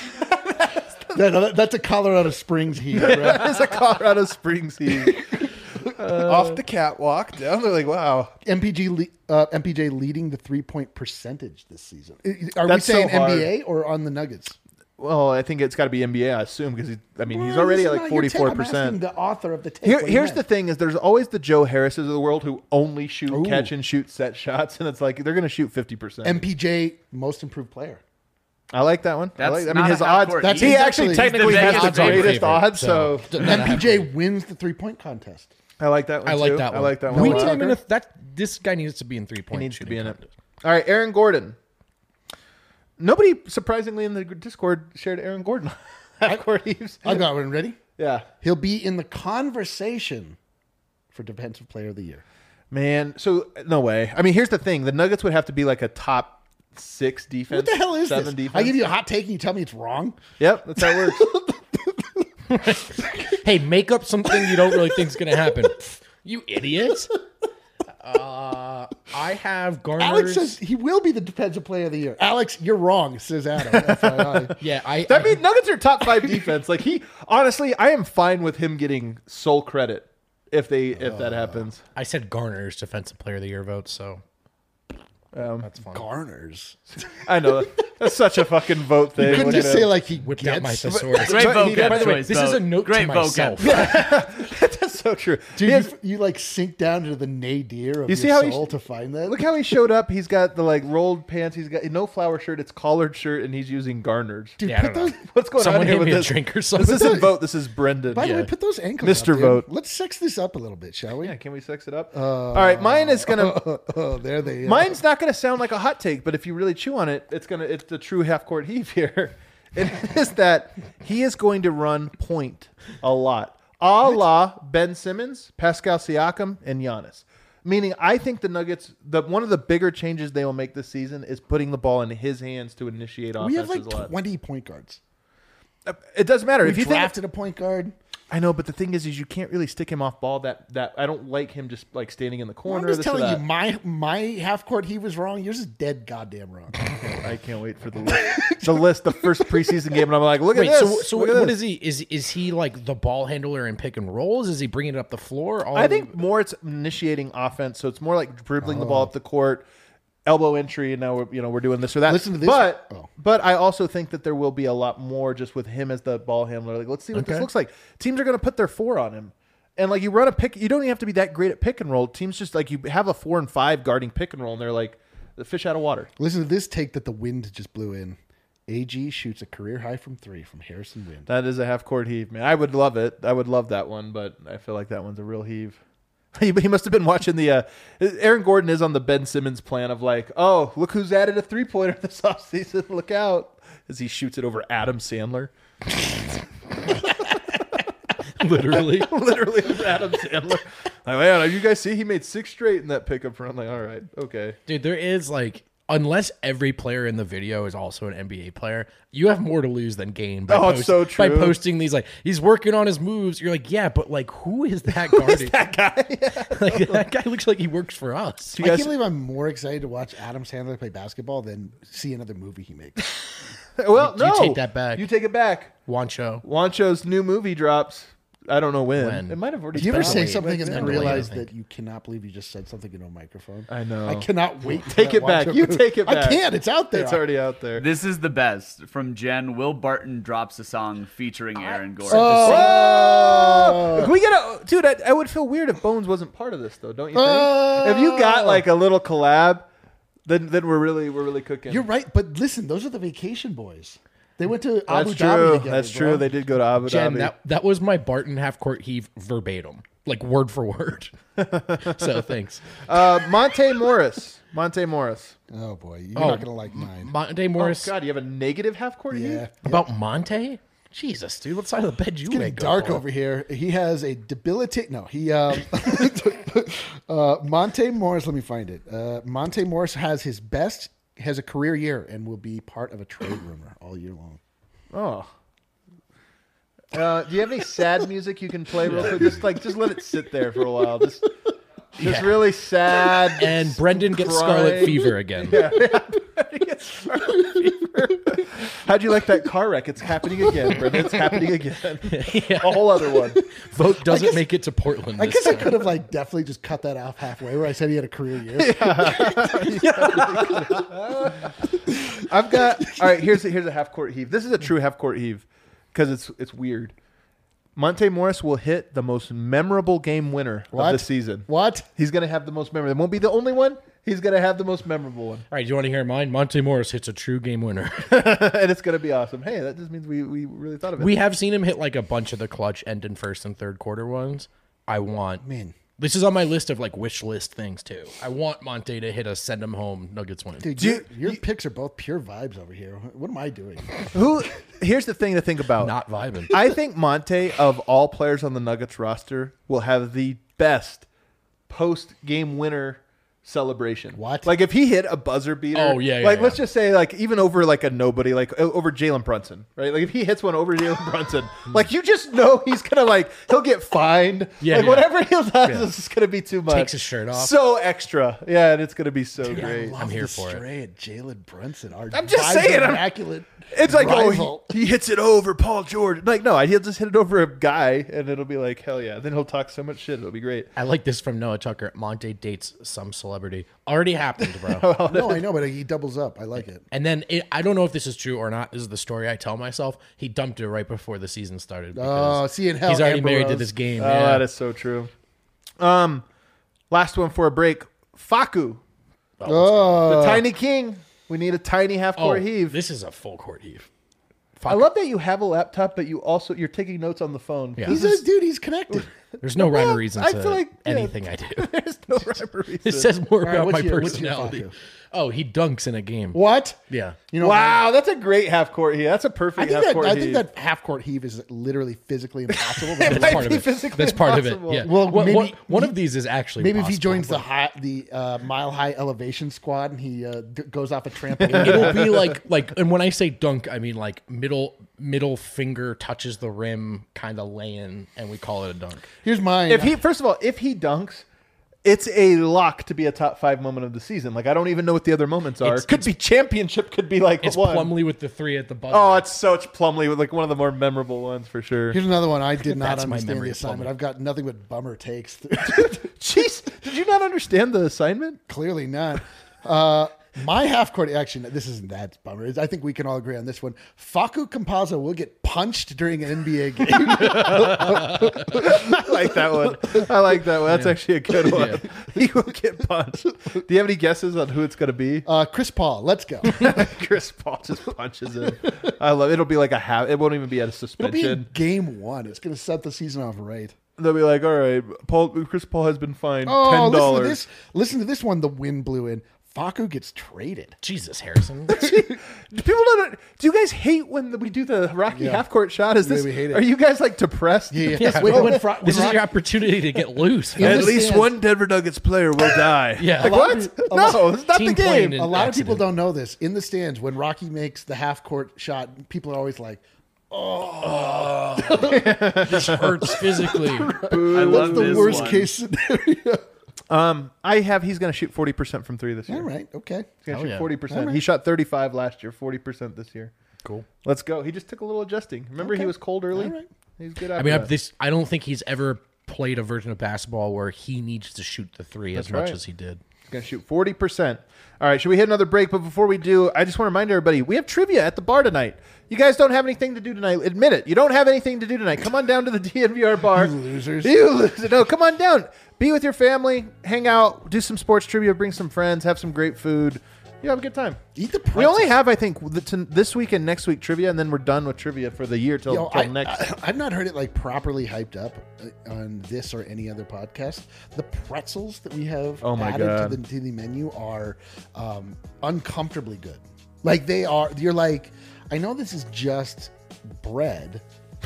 That- that- that's a Colorado Springs heat, bro. That is a Colorado Springs heat. Off the catwalk down. They're like, wow. M P G le- uh, M P J leading the three point percentage this season. Are That's we so saying hard. N B A or on the Nuggets? Well, I think it's got to be N B A. I assume because I mean he's Well, already this at is like not your take. forty-four I'm asking percent. the author of the take. Here, what he here's the meant. thing: is there's always the Joe Harrises of the world who only shoot, Ooh. catch, and shoot set shots, and it's like they're going to shoot fifty percent. M P J most improved player. I like that one. I, That's like, I not mean, a his half odds. court That's he heat. actually He's technically the has Vegas the odds greatest favorite, odds. So, so- M P J wins the three point contest. I like that one. I like too. that one. I like that one. We a lot. need him in a, that. This guy needs to be in three He point. needs to be in it. All right, Aaron Gordon. Nobody, surprisingly, in the Discord shared Aaron Gordon. Half-court heaves. I got one ready. Yeah. He'll be in the conversation for defensive player of the year. Man, so no way. I mean, here's the thing: the Nuggets would have to be like a top six defense. What the hell is seven this? Defense. I give you a hot take and you tell me it's wrong. Yep, that's how it works. Hey, make up something you don't really think is going to happen. You idiot. Uh, I have Garner's. Alex says he will be the defensive player of the year. Alex, you're wrong, says Adam. F Y I. yeah, I. That I, means Nuggets are top five defense. Like he, honestly, I am fine with him getting sole credit if they if that happens. I said Garner's defensive player of the year vote, so Um, that's fine. Garners. I know that's such a fucking vote thing. Couldn't Look just at say him. like he Whipped gets. out my thesaurus. Great But he- vocab by By the way, choice, this is Bo. a note Great to vocab. myself. so true. Dude, He has- you, you like sink down into the nadir of You your see how he soul sh- to find that. Look how he showed up. He's got the like rolled pants. He's got no flower shirt. It's collared shirt, and he's using garters. Dude, Yeah, I put don't those. know. What's going Someone on here hand with me a this? drink or This something. isn't Vote. This is Brendan. By the Yeah. way, put those ankles, Mister up, dude. Vote. Let's sex this up a little bit, shall we? Yeah, can we sex it up? All right, mine is gonna. Oh, there they. are. Mine's not gonna sound like a hot take, but if you really chew on it, it's gonna. It's the true half court heave here. It is that he is going to run point a lot, a la Ben Simmons, Pascal Siakam, and Giannis. Meaning, I think the Nuggets, the one of the bigger changes they will make this season is putting the ball in his hands to initiate offenses We have like a lot. twenty point guards. It doesn't matter We if you think. drafted a point guard. I know, but the thing is, is you can't really stick him off ball. That that I don't like him just like standing in the corner. I'm just this or telling you, that. my my half court he was wrong. Yours is dead goddamn wrong. I can't wait for the list. the list, the first preseason game, and I'm like, look at Wait, this. so so look at what this. is he? Is is he like the ball handler in pick and rolls? Is he bringing it up the floor? All I think more it's initiating offense, so it's more like dribbling the ball up the court, elbow entry, and now we're you know we're doing this or that. Listen to this. But Oh. but I also think that there will be a lot more just with him as the ball handler. Like, let's see what this Okay. looks like. Teams are going to put their four on him, and like you run a pick. You don't even have to be that great at pick and roll. Teams just like you have a four and five guarding pick and roll, and they're like the fish out of water. Listen to this take that the wind just blew in. A G shoots a career high from three from Harrison Wind. That is a half court heave, man. I would love it. I would love that one, but I feel like that one's a real heave. He, he must have been watching the. Uh, Aaron Gordon is on the Ben Simmons plan of like, oh, look who's added a three pointer this offseason. Look out as he shoots it over Adam Sandler. literally. Literally, it's Adam Sandler. Like, man, you guys see he made six straight in that pickup run. Like, all right, okay. Dude, there is like, unless every player in the video is also an N B A player, you have more to lose than gain by, Oh, it's so by true. posting these like he's working on his moves. You're like, yeah, but like, who is that guarding? That guy. like that guy looks like he works for us. You I guys- can't believe I'm more excited to watch Adam Sandler play basketball than see another movie he makes. well, You- you no, take that back. You take it back. Wancho. Wancho's new movie drops. I don't know when. When? It might have already. Do you ever been say out. something and It's then been delayed, realize I think. that you cannot believe you just said something into a microphone? I know. I cannot wait. to Take it watch back. a You movie. take it back. I can't. It's out there. It's already out there. This is the best. From Jen, Will Barton drops a song featuring Aaron Gordon. Oh, Can we get a dude? I, I would feel weird if Bones wasn't part of this, though. Don't you think? Oh. If you got like a little collab, then then we're really we're really cooking. You're right, but listen, those are the vacation boys. They went to Abu That's Dhabi true. together. That's bro. true. They did go to Abu Jen, Dhabi. that that was my Barton half court heave verbatim, like word for word. So thanks. Uh, Monte Morris. Monte Morris. Oh boy, you're Oh, not gonna like mine. Monte Morris. Oh God, you have a negative half court Yeah, heave? About Monte? Jesus, dude, what side of the bed you getting make? dark over here. He has a debilitate. No, he. Um, uh, Monte Morris. Let me find it. Uh, Monte Morris has his best. Has a career year and will be part of a trade rumor all year long. Oh. Uh, do you have any sad music you can play real quick? Just like just let it sit there for a while. Just just Yeah. really sad. And Brendan gets scarlet crying. fever again. How'd you like that car wreck? It's happening again, Brendan. It's happening again. A whole other one. Vote doesn't guess- make it to Portland. I this guess I time. could have like definitely just cut that off halfway where I said he had a career year. I've got all right. Here's a, here's a half court heave. This is a true half court heave because it's it's weird. Monte Morris will hit the most memorable game winner What? of the season. What? He's gonna have the most memorable. It won't be the only one. He's gonna have the most memorable one, All right, do you want to hear mine? Monte Morris hits a true game winner. and it's gonna be awesome. Hey, that just means we we really thought of it. We have seen him hit like a bunch of the clutch end in first and third quarter ones. I want. Man. This is on my list of like wish list things too. I want Monte to hit a send him home Nuggets win. Dude, Do your, you- your picks are both pure vibes over here. What am I doing? Who? Here's the thing to think about. Not vibing. I think Monte, of all players on the Nuggets roster, will have the best post game winner celebration. What? Like if he hit a buzzer beater? Oh, yeah, yeah, Like yeah. let's just say like even over like a nobody, like o- over Jalen Brunson, right? Like if he hits one over Jalen Brunson, like you just know he's gonna like he'll get fined. Yeah, like yeah. whatever he does Yeah. is just gonna be too much. Takes his shirt off. So extra, yeah, and it's gonna be so I great. love I'm here the for it. stray at Jalen Brunson. Our I'm just vibes saying, I'm- immaculate. It's like, rival. oh, he, he hits it over Paul George. Like, no, he'll just hit it over a guy, and it'll be like, hell yeah. Then he'll talk so much shit. It'll be great. I like this from Noah Tucker. Monte dates some celebrity celebrity. Already happened, bro. No, I know, but he doubles up. I like it. And then it, I don't know if this is true or not. This is the story I tell myself. He dumped her right before the season started. Oh, because see in hell. he's already Amber married to Rose. this game. Oh, yeah. that is so true. Um, last one for a break. Faku, Oh, the tiny king. We need a tiny half oh, court heave. this is a full court heave. I love that you have a laptop, but you also you're taking notes on the phone. Yeah. he's a dude. He's connected. There's no rhyme Well, or reason I to feel like, yeah. anything I do. There's no rhyme or reason. It says more right, about what's my your- what's your personality. Faku? Oh, he dunks in a game. What? Yeah. You know, Wow, that's a great half court heave. That's a I perfect think half that court I heave. think that half court heave is literally physically impossible. It That's might part of be it. physically That's part of impossible. it. Yeah. Well, Well, maybe- one, one of these is actually Maybe if he possible, joins the but high, the uh, mile high elevation squad and he uh, d- goes off a trampoline. it'll be like like and when I say dunk, I mean like middle middle finger touches the rim, kind of laying, and we call it a dunk. Here's mine. If he first of all, if he dunks, it's a lock to be a top five moment of the season. Like I don't even know what the other moments are. It's- It could be championship. Could be like It's one. Plumlee with the three at the buzzer. Oh, it's such Plumlee with like one of the more memorable ones for sure. Here's another one I did not That's my understand memory the of assignment. Plumlee. I've got nothing but bummer takes. Jeez, did you not understand the assignment? Clearly not. Uh, my half court action. This isn't that bummer. I think we can all agree on this one. Faku Campazzo will get punched during an N B A game. I like that one. I like that one. That's actually a good one. Yeah. He will get punched. Do you have any guesses on who it's going to be? Uh, Chris Paul, let's go. Chris Paul just punches him. I love it. It'll be like a half. It won't even be at a It'll be suspension. in game one. It's going to set the season off right. They'll be like, all right, Paul. Chris Paul has been fined Oh, ten listen to dollars. this. Listen to this one. The wind blew in. Faku gets traded. Jesus, Harrison. Do people don't? Do you guys hate when we do the Rocky Yeah. half court shot? Is Yeah, this? we hate it. Are you guys like depressed? Yeah, Yeah, Wait, well, when Fra- this when is Rock- your opportunity to get loose. In man. At the least stands. one Denver Nuggets player will die. Yeah. Like A lot what? of- a lot- No, it's not Team the playing game. in- A lot of people accident. don't know this. In the stands, when Rocky makes the half court shot, people are always like, This hurts physically. I "That's love the this worst one. case scenario." Um, I have. He's going to shoot forty percent from three this year. All right, okay. He's going Hell to shoot yeah. forty percent. All right. He shot thirty-five last year. Forty percent this year. Cool. Let's go. He just took a little adjusting. Remember, he Okay. was cold early. All right. He's good. I After mean, I, that. this I don't think he's ever played a version of basketball where he needs to shoot the three as That's much right. as he did. He's going to shoot forty percent. All right, should we hit another break? But before we do, I just want to remind everybody, we have trivia at the bar tonight. You guys don't have anything to do tonight. Admit it. You don't have anything to do tonight. Come on down to the D N V R bar. You losers. You losers. No, come on down. Be with your family. Hang out. Do some sports trivia. Bring some friends. Have some great food. You have a good time. Eat the We pretzels. only have, I think, the, to, this week and next week trivia, and then we're done with trivia for the year till, Yo, till I, next. I, I've not heard it like properly hyped up uh, on this or any other podcast. The pretzels that we have Oh my added God. to the to the menu are um, uncomfortably good. Like they are. You're like, I know this is just bread.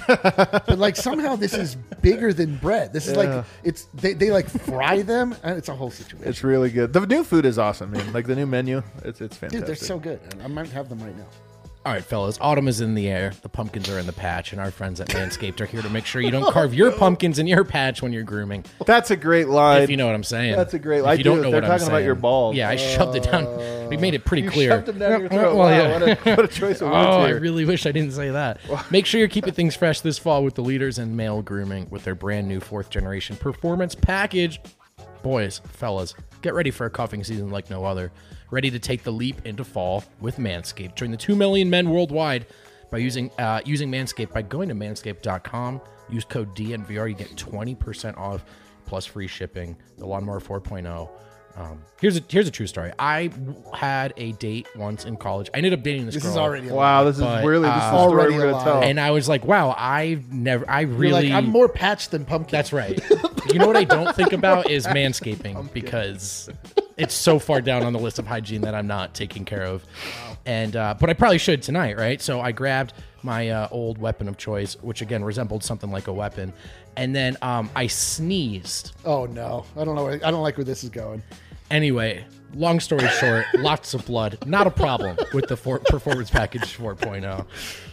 But like somehow this is bigger than bread. This is Yeah. like it's they, they like fry them and it's a whole situation. It's really good. The new food is awesome, man. Like the new menu, it's it's fantastic. Dude, they're so good. And I might have them right now. All right, fellas. Autumn is in the air. The pumpkins are in the patch, and our friends at Manscaped are here to make sure you don't carve your pumpkins in your patch when you're grooming. That's a great line. If you know what I'm saying. That's a great- If I you don't do. know They're what I'm talking about saying. your balls. Yeah, I shoved it down. We made it pretty You clear. shoved them down your throat. Well, Wow, yeah. what, a, what a choice of words Oh, I here. really wish I didn't say that. Make sure you're keeping things fresh this fall with the leaders in male grooming with their brand new fourth generation performance package. Boys, fellas, get ready for a cuffing season like no other. Ready to take the leap into fall with Manscaped. Join the two million men worldwide by using uh, using Manscaped by going to manscaped dot com. Use code D N V R. You get twenty percent off plus free shipping. The Lawnmower four point oh. Um, here's a here's a true story. I had a date once in college. I ended up dating this, This girl. is already a Wow, this is But, really this is uh, the story already we're a gonna lie. tell. and I was like, wow, I've never, I You're really, like, I'm more patched than pumpkin. that's right. You know what I don't think about is manscaping because it's so far down on the list of hygiene that I'm not taking care of. And, uh, but I probably should tonight, right? So I grabbed my uh, old weapon of choice, which again resembled something like a weapon. And then um, I sneezed. Oh no. I don't know. where- I don't like where this is going. Anyway, long story short, lots of blood. Not a problem with the for- Performance Package four point oh.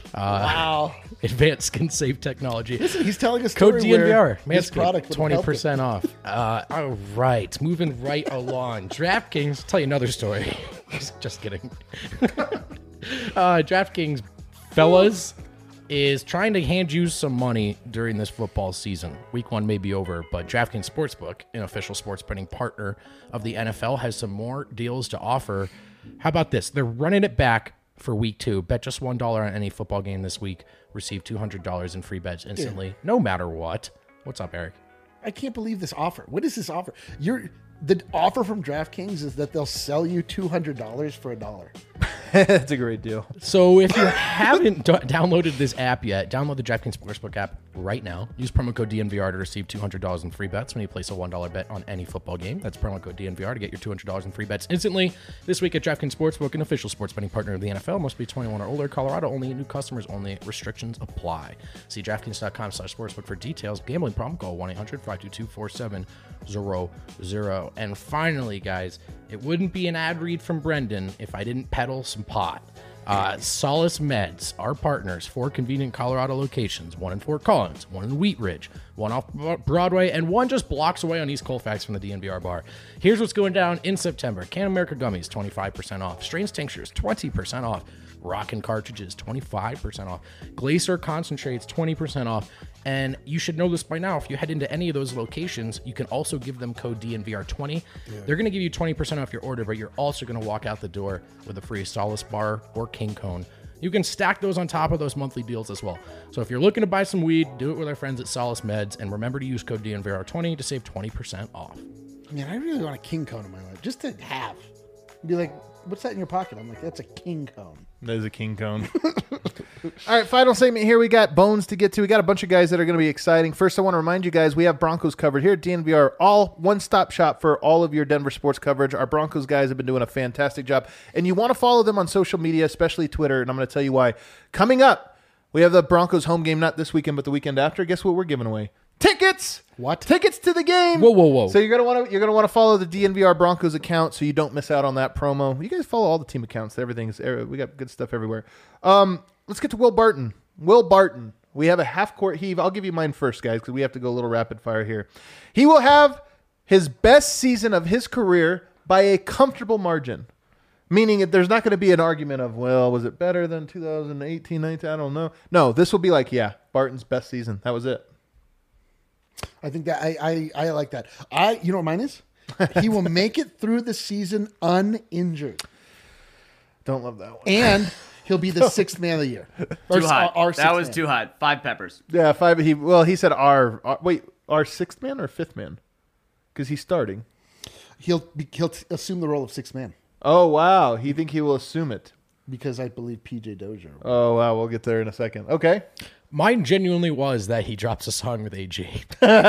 Wow. Advanced skin safe technology. Listen, he's telling a story Code D N V R. where this product Manscaped, would twenty help percent off. Uh, all right, moving right along. DraftKings, tell you another story. just, just kidding. uh, DraftKings, fellas, is trying to hand you some money during this football season. Week one may be over, but DraftKings Sportsbook, an official sports betting partner of the N F L, has some more deals to offer. How about this? They're running it back for week two. Bet just one dollar on any football game this week. Receive two hundred dollars in free bets instantly, yeah. no matter what. What's up, Eric? I can't believe this offer. What is this offer? You're the offer from DraftKings is that they'll sell you two hundred dollars for a dollar. That's a great deal. So if you haven't d- downloaded this app yet, download the DraftKings Sportsbook app right now. Use promo code D N V R to receive two hundred dollars in free bets when you place a one dollar bet on any football game. That's promo code D N V R to get your two hundred dollars in free bets instantly. This week at DraftKings Sportsbook, an official sports betting partner of the N F L. Must be twenty-one or older. Colorado only. New customers only. Restrictions apply. See DraftKings.com slash sportsbook for details. Gambling problem? Call one eight hundred five two two four seven zero zero. And finally, guys, it wouldn't be an ad read from Brendan if I didn't peddle some pot. Uh, Solace Meds, our partners, four convenient Colorado locations, one in Fort Collins, one in Wheat Ridge, one off Broadway, and one just blocks away on East Colfax from the D N V R bar. Here's what's going down in September. Can America Gummies, twenty-five percent off. Strains Tinctures, twenty percent off. Rockin' Cartridges, twenty-five percent off. Glacier Concentrates, twenty percent off. And you should know this by now. If you head into any of those locations, you can also give them code D N V R twenty. Yeah. They're going to give you twenty percent off your order, but you're also going to walk out the door with a free Solace Bar or King Cone. You can stack those on top of those monthly deals as well. So if you're looking to buy some weed, do it with our friends at Solace Meds. And remember to use code D N V R twenty to save twenty percent off. Man, I really want a King Cone in my life. Just to have. Be like, what's that in your pocket? I'm like, that's a King Cone. That is a King Cone. All right, final segment here. We got bones to get to. We got a bunch of guys that are going to be exciting. First, I want to remind you guys, we have Broncos covered here at D N V R. All one-stop shop for all of your Denver sports coverage. Our Broncos guys have been doing a fantastic job. And you want to follow them on social media, especially Twitter, and I'm going to tell you why. Coming up, we have the Broncos home game, not this weekend, but the weekend after. Guess what we're giving away? Tickets! What? Tickets to the game. Whoa, whoa, whoa. So you're gonna want to you're gonna want to follow the D N V R Broncos account so you don't miss out on that promo. You guys follow all the team accounts. Everything's we got good stuff everywhere. Um, let's get to Will Barton. Will Barton. We have a half court heave. I'll give you mine first, guys, because we have to go a little rapid fire here. He will have his best season of his career by a comfortable margin. Meaning there's not going to be an argument of, well, was it better than two thousand eighteen, nineteen? I don't know. No, this will be like, yeah, Barton's best season. That was it. I think that I, I, I like that. I you know what mine is? He will make it through the season uninjured. Don't love that one. And he'll be the sixth man of the year. Too hot. Our, our that was man. too hot. Five peppers. Yeah, five. He well, he said our, our wait, our sixth man or fifth man, because he's starting. He'll be, he'll t- assume the role of sixth man. Oh wow, he think he will assume it because I believe P J Dozier. Oh wow, we'll get there in a second. Okay. Mine genuinely was that he drops a song with A J.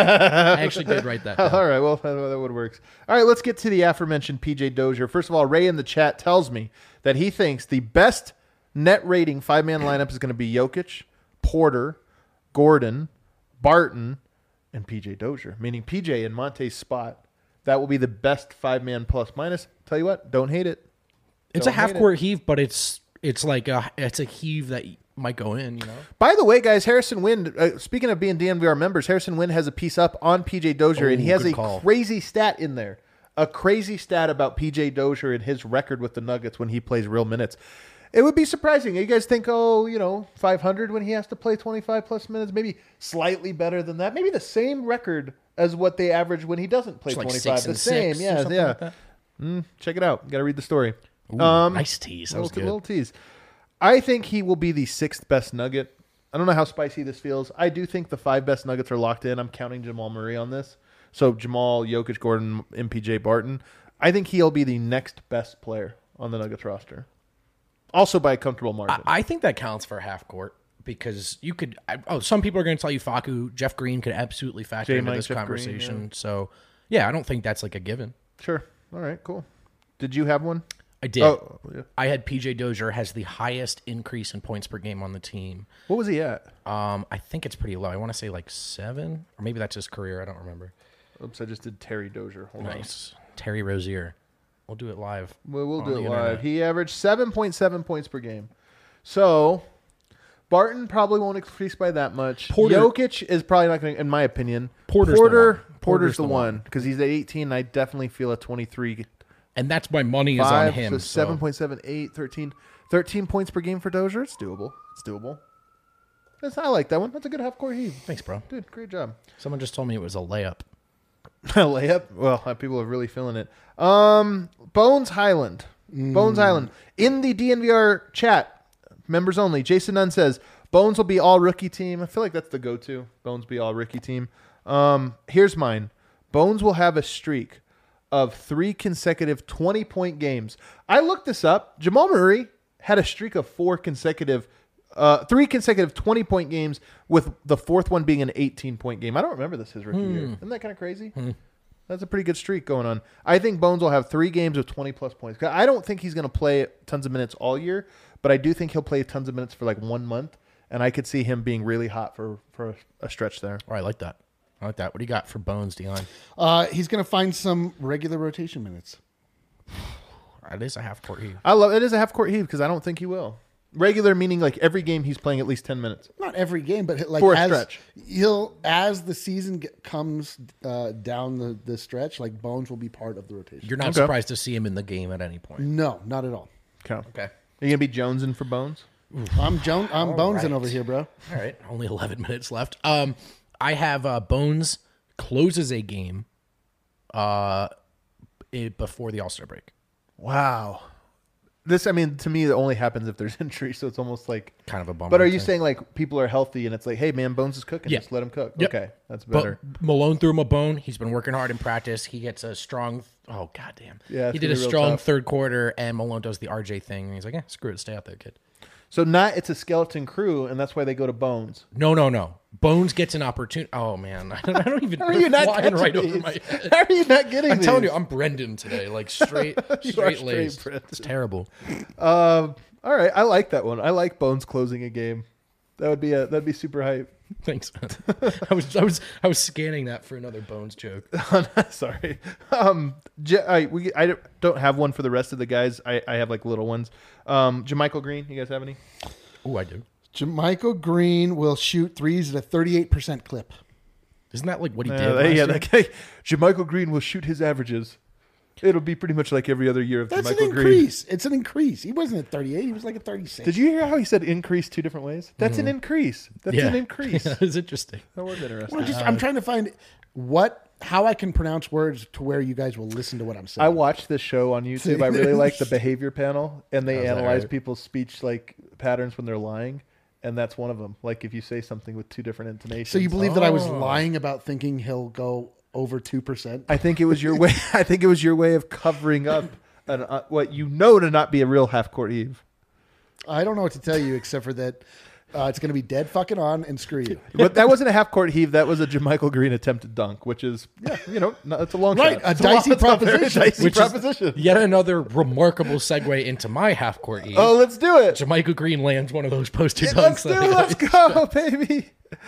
I actually did write that down. All right, well, that, that would work. All right, let's get to the aforementioned P J Dozier. First of all, Ray in the chat tells me that he thinks the best net rating five-man lineup is going to be Jokic, Porter, Gordon, Barton, and P J Dozier, meaning P J in Monte's spot. That will be the best five-man plus minus. Tell you what, don't hate it. It's don't a half-court heave, but it's it's like a, it's a heave that might go in, you know. By the way, guys, Harrison Wind, uh, speaking of being D N V R members, Harrison Wind has a piece up on P J Dozier, Oh, and he has good a call. crazy stat in there. A crazy stat about P J Dozier and his record with the Nuggets when he plays real minutes. It would be surprising. You guys think, oh, you know, five hundred when he has to play twenty-five plus minutes, maybe slightly better than that. Maybe the same record as what they average when he doesn't play It's like twenty-five. six The and same, six or yeah, something yeah. like that. Mm, check it out. Got to read the story. Ooh, Um, nice tease. That was little, good. little tease. I think he will be the sixth best Nugget. I don't know how spicy this feels. I do think the five best Nuggets are locked in. I'm counting Jamal Murray on this. So Jamal, Jokic, Gordon, M P J, Barton. I think he'll be the next best player on the Nuggets roster. Also by a comfortable margin. I, I think that counts for half court because you could. I, oh, some people are going to tell you Facu, Jeff Green could absolutely factor J. into Mike, this Jeff Green, conversation. yeah. So, yeah, I don't think that's like a given. Sure. All right, cool. Did you have one? I did. Oh, yeah. I had P J Dozier has the highest increase in points per game on the team. What was he at? Um, I think it's pretty low. I want to say like seven, or maybe that's his career. I don't remember. Oops, I just did Terry Dozier. Hold Nice, Terry Rozier. We'll do it live. on. Well, we'll on do the it internet. live. He averaged seven point seven points per game. So Barton probably won't increase by that much. Porter- Jokic is probably not going to, in my opinion. Porter's the Porter, one. Porter's, Porter's the the one because he's at eighteen. And I definitely feel a twenty-three. And that's why money is Five, on him. so So seven point seven eight, thirteen, thirteen points per game for Dozier. It's doable. It's doable. That's, I like that one. That's a good half court heave. Thanks, bro. Dude, great job. Someone just told me it was a layup. Layup. Well, uh, people are really feeling it. Um, Bones Highland. Bones Highland. In the D N V R chat, members only, Jason Nunn says, Bones will be all rookie team. I feel like that's the go-to. Bones be all rookie team. Um, here's mine. Bones will have a streak of three consecutive twenty-point games. I looked this up. Jamal Murray had a streak of four consecutive, uh, three consecutive twenty-point games, with the fourth one being an eighteen-point game. I don't remember this his rookie Hmm. year. Isn't that kind of crazy? Hmm. That's a pretty good streak going on. I think Bones will have three games of twenty-plus points. I don't think he's going to play tons of minutes all year, but I do think he'll play tons of minutes for like one month, and I could see him being really hot for, for a stretch there. Oh, I like that. I like that. What do you got for Bones, Dion? Uh, he's going to find some regular rotation minutes. It is a half court heave. I love it. Is a half court heave because I don't think he will. Regular meaning like every game he's playing at least ten minutes. Not every game, but like For a as stretch. he'll as the season get, comes uh, down the, the stretch, like Bones will be part of the rotation. You're not Okay. surprised to see him in the game at any point. No, not at all. Okay. Okay. Are you gonna be Jonesing for Bones? I'm Joan. I'm All Bonesing right. over here, bro. All right. Only eleven minutes left. Um, I have uh, Bones closes a game uh, it, before the All-Star break. Wow. This, I mean, to me, it only happens if there's injury, so it's almost like Kind of a bummer. But are you thing. saying like people are healthy and it's like, hey man, Bones is cooking, Yeah. just let him cook? Yep. Okay, that's But better. Malone threw him a bone. He's been working hard in practice. He gets a strong. Oh goddamn! Yeah, it's he did gonna a be real strong tough. third quarter, and Malone does the R J thing. And he's like, "Yeah, screw it, stay out there, kid." So not it's a skeleton crew, and that's why they go to Bones. No, no, no. Bones gets an opportunity. Oh man, I don't even. How are you not flying catching right these? over my head. How are you not getting I'm these? telling you, I'm Brendan today. Like straight, You are straight straight laced. Brendan. It's terrible. Um, all right, I like that one. I like Bones closing a game. That would be a that'd be super hype. Thanks, man. I was, I was, I was scanning that for another Bones joke. Sorry. Um, J- I, we, I don't have one for the rest of the guys. I, I have like little ones. Um, Jermichael Green, you guys have any? Oh, I do. Jermichael Green will shoot threes at a thirty-eight percent clip. Isn't that like what he Uh, did? Last yeah, year? that guy. Jermichael Green will shoot his averages. It'll be pretty much like every other year of That's Jermichael an Green. increase. It's an increase. He wasn't at thirty-eight. He was like at thirty-six. Did you hear how he said increase two different ways? That's an increase. That's yeah. an increase. Yeah, it's interesting. That was interesting. Well, just, I'm trying to find what how I can pronounce words to where you guys will listen to what I'm saying. I watched this show on YouTube. I really like the behavior panel, and they How's that analyze hurt? people's speech like patterns when they're lying, and that's one of them. Like if you say something with two different intonations. so you believe that I was Oh. lying about thinking he'll go over two percent? I think it was your way. I think it was your way of covering up an, uh, what you know to not be a real half court heave. I don't know what to tell you except for that uh, it's going to be dead fucking on and screw you. But that wasn't a half court heave. That was a Jermichael Green attempted dunk, which is yeah, you know, no, it's a long Right, shot. a It's dicey long- it's a very proposition. dicey Which is proposition. yet another remarkable segue into my half court eve. Oh, let's do it. Jermichael Green lands one of those poster Yeah, dunks. let's do that it. I- Let's go, baby.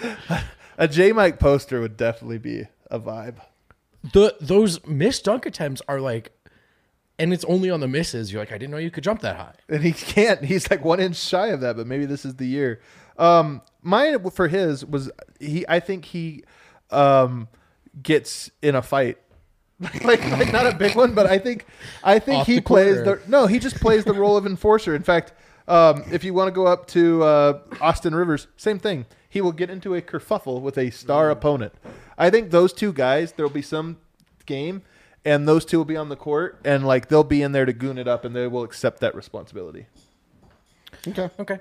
A J Mike poster would definitely be a vibe. The those missed dunk attempts are like, and it's only on the misses. You're like, I didn't know you could jump that high. And he can't. He's like one inch shy of that, but maybe this is the year. Um, mine for his was he. I think he um, gets in a fight, like, like not a big one, but I think I think Off he the court, plays or- the no. He just plays the role of enforcer. In fact, um, if you want to go up to uh, Austin Rivers, same thing. He will get into a kerfuffle with a star opponent. I think those two guys. There will be some game. And those two will be on the court, and like they'll be in there to goon it up, and they will accept that responsibility. Okay. Okay.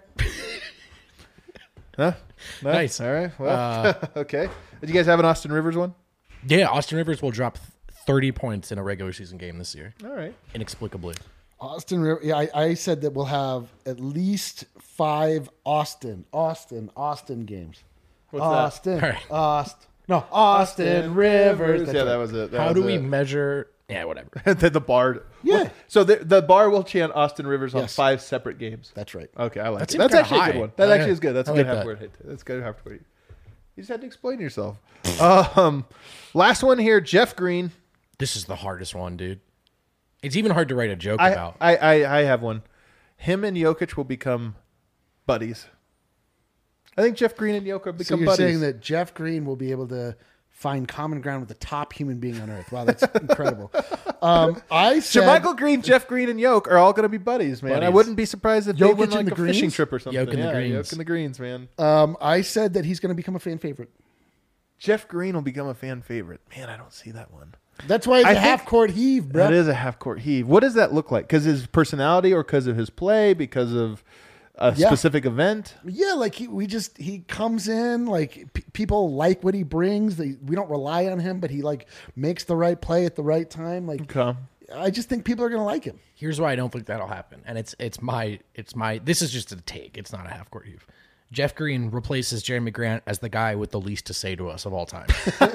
Huh? No? Nice. All right. Well, okay. Did you guys have an Austin Rivers one? Yeah, Austin Rivers will drop thirty points in a regular season game this year, All right. inexplicably. Austin River. Yeah, I, I said that we'll have at least five Austin, Austin, Austin games. What's that? Austin, All right. Austin. No, Austin, Rivers. That's Yeah, right. that was it. That How was do we it. measure? Yeah, whatever. the, the bar. Yeah. What- So the the bar will chant Austin Rivers on Yes. five separate games. That's right. Okay, I like That it. seems That's kinda actually a high. good one. That Yeah. actually is good. That's a I good like half that. word hit. That's good half word. You just had to explain yourself. um, last one here, Jeff Green. This is the hardest one, dude. It's even hard to write a joke I, about. I, I I have one. Him and Jokic will become buddies. I think Jeff Green and Jokic will So become you're buddies. saying that Jeff Green will be able to find common ground with the top human being on earth. Wow, that's incredible. Um, I said Michael Green, Jeff Green, and Yoke are all going to be buddies, man. I Buddies. wouldn't be surprised if Jokic they went and like the a fishing Greens? trip or something. Yoke and the yeah, Greens. Yoke and the Greens, man. um, I said that he's going to become a fan favorite. Jeff Green will become a fan favorite. Man, I don't see that one. That's why it's I a think- half court heave, bro. That is a half court heave. What does that look like? Because his personality, or because of his play, because of a Yeah. specific event? Yeah, like he, we just he comes in like p- people like what he brings. They, we don't rely on him, but he like makes the right play at the right time. Like Okay. I just think people are gonna like him. Here's why I don't think that'll happen, and it's it's my it's my this is just a take. It's not a half court heave. Jeff Green replaces Jeremy Grant as the guy with the least to say to us of all time.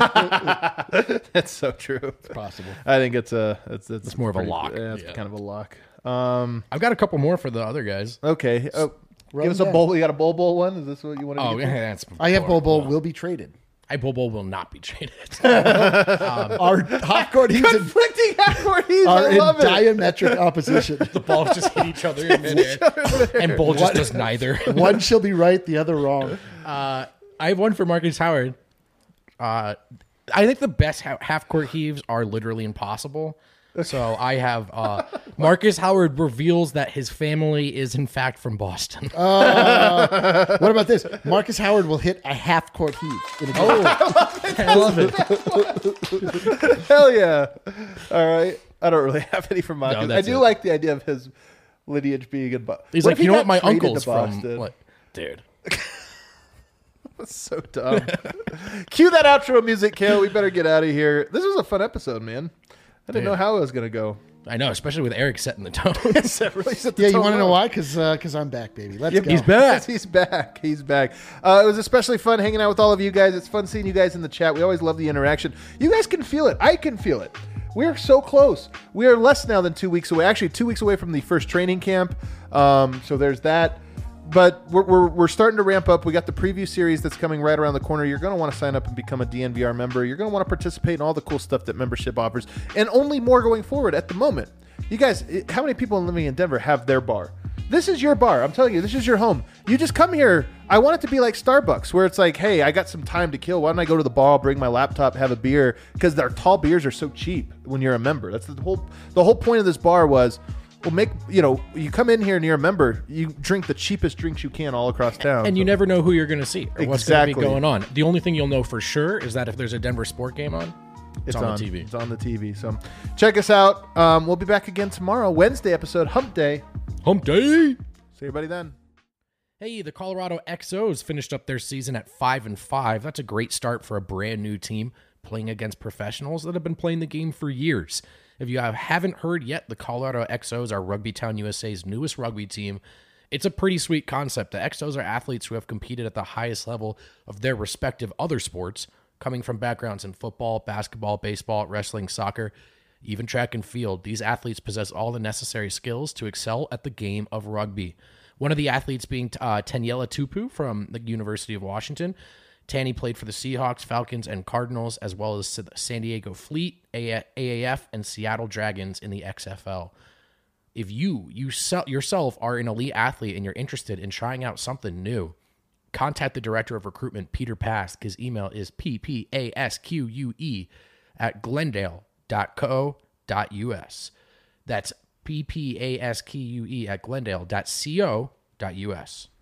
That's so true. It's possible. I think it's a it's, it's, It's more of a pretty- lock. Yeah, it's Yeah. kind of a lock. Um, I've got a couple more for the other guys. okay. Oh, Run give us a down. bowl. You got a bowl bowl one? Is this what you want to Oh, do? yeah, that's. I have Bol Bol well, will be traded. I Bobo will not be traded. Our half court heaves in- Conflicting half court heaves. are I in love it. diametric opposition. The balls just hit each other in midair, and Bull just does neither. One shall be right, the other wrong. Uh, I have one for Marcus Howard. Uh, I think the best ha- half court heaves are literally impossible. So I have uh, Marcus Howard reveals that his family is in fact from Boston. What about this? Marcus Howard will hit a half court heave. In a game. I love it. Hell yeah! All right. I don't really have any from Marcus. I that's do it. like the idea of his lineage being in Boston. He's like, you know what? My uncle's from Boston? what? Dude. That's so dumb. Cue that outro music, Kale. We better get out of here. This was a fun episode, man. I didn't Dude. know how it was going to go. I know, especially with Eric setting the tone. That really set the Yeah, you tone want to know up. why? Because because I'm back, baby. Let's Yep, go. he's back. He's back. He's back. Uh, it was especially fun hanging out with all of you guys. It's fun seeing you guys in the chat. We always love the interaction. You guys can feel it. I can feel it. We're so close. We are less now than two weeks away. Actually, two weeks away from the first training camp. Um, so there's that. But we're, we're, we're starting to ramp up. We got the preview series that's coming right around the corner. You're going to want to sign up and become a D N V R member. You're going to want to participate in all the cool stuff that membership offers, and only more going forward at the moment. You guys, how many people living in Denver have their bar? This is your bar. I'm telling you, this is your home. You just come here. I want it to be like Starbucks, where it's like, hey, I got some time to kill. Why don't I go to the bar, bring my laptop, have a beer? Because their tall beers are so cheap when you're a member. That's the whole the whole point of this bar was, well, make, you know, you come in here and you're a member, you drink the cheapest drinks you can all across town. And you never know who you're going to see or what's going to Exactly. be going on. The only thing you'll know for sure is that if there's a Denver sport game on, it's, It's on, on the T V. It's on the T V. So check us out. Um, we'll be back again tomorrow, Wednesday episode, Hump Day. Hump Day. See everybody then. Hey, the Colorado X Os finished up their season at five and five. That's a great start for a brand new team playing against professionals that have been playing the game for years. If you have, haven't heard yet, the Colorado X Os are Rugby Town U S A's newest rugby team. It's a pretty sweet concept. The X Os are athletes who have competed at the highest level of their respective other sports, coming from backgrounds in football, basketball, baseball, wrestling, soccer, even track and field. These athletes possess all the necessary skills to excel at the game of rugby. One of the athletes being uh, Taniela Tupu from the University of Washington. Tanny played for the Seahawks, Falcons, and Cardinals, as well as the San Diego Fleet, A A F, and Seattle Dragons in the X F L. If you, you yourself are an elite athlete and you're interested in trying out something new, contact the Director of Recruitment, Peter Pask. His email is p p a s q u e at glendale dot co dot u s. That's p p a s q u e at glendale dot co dot u s.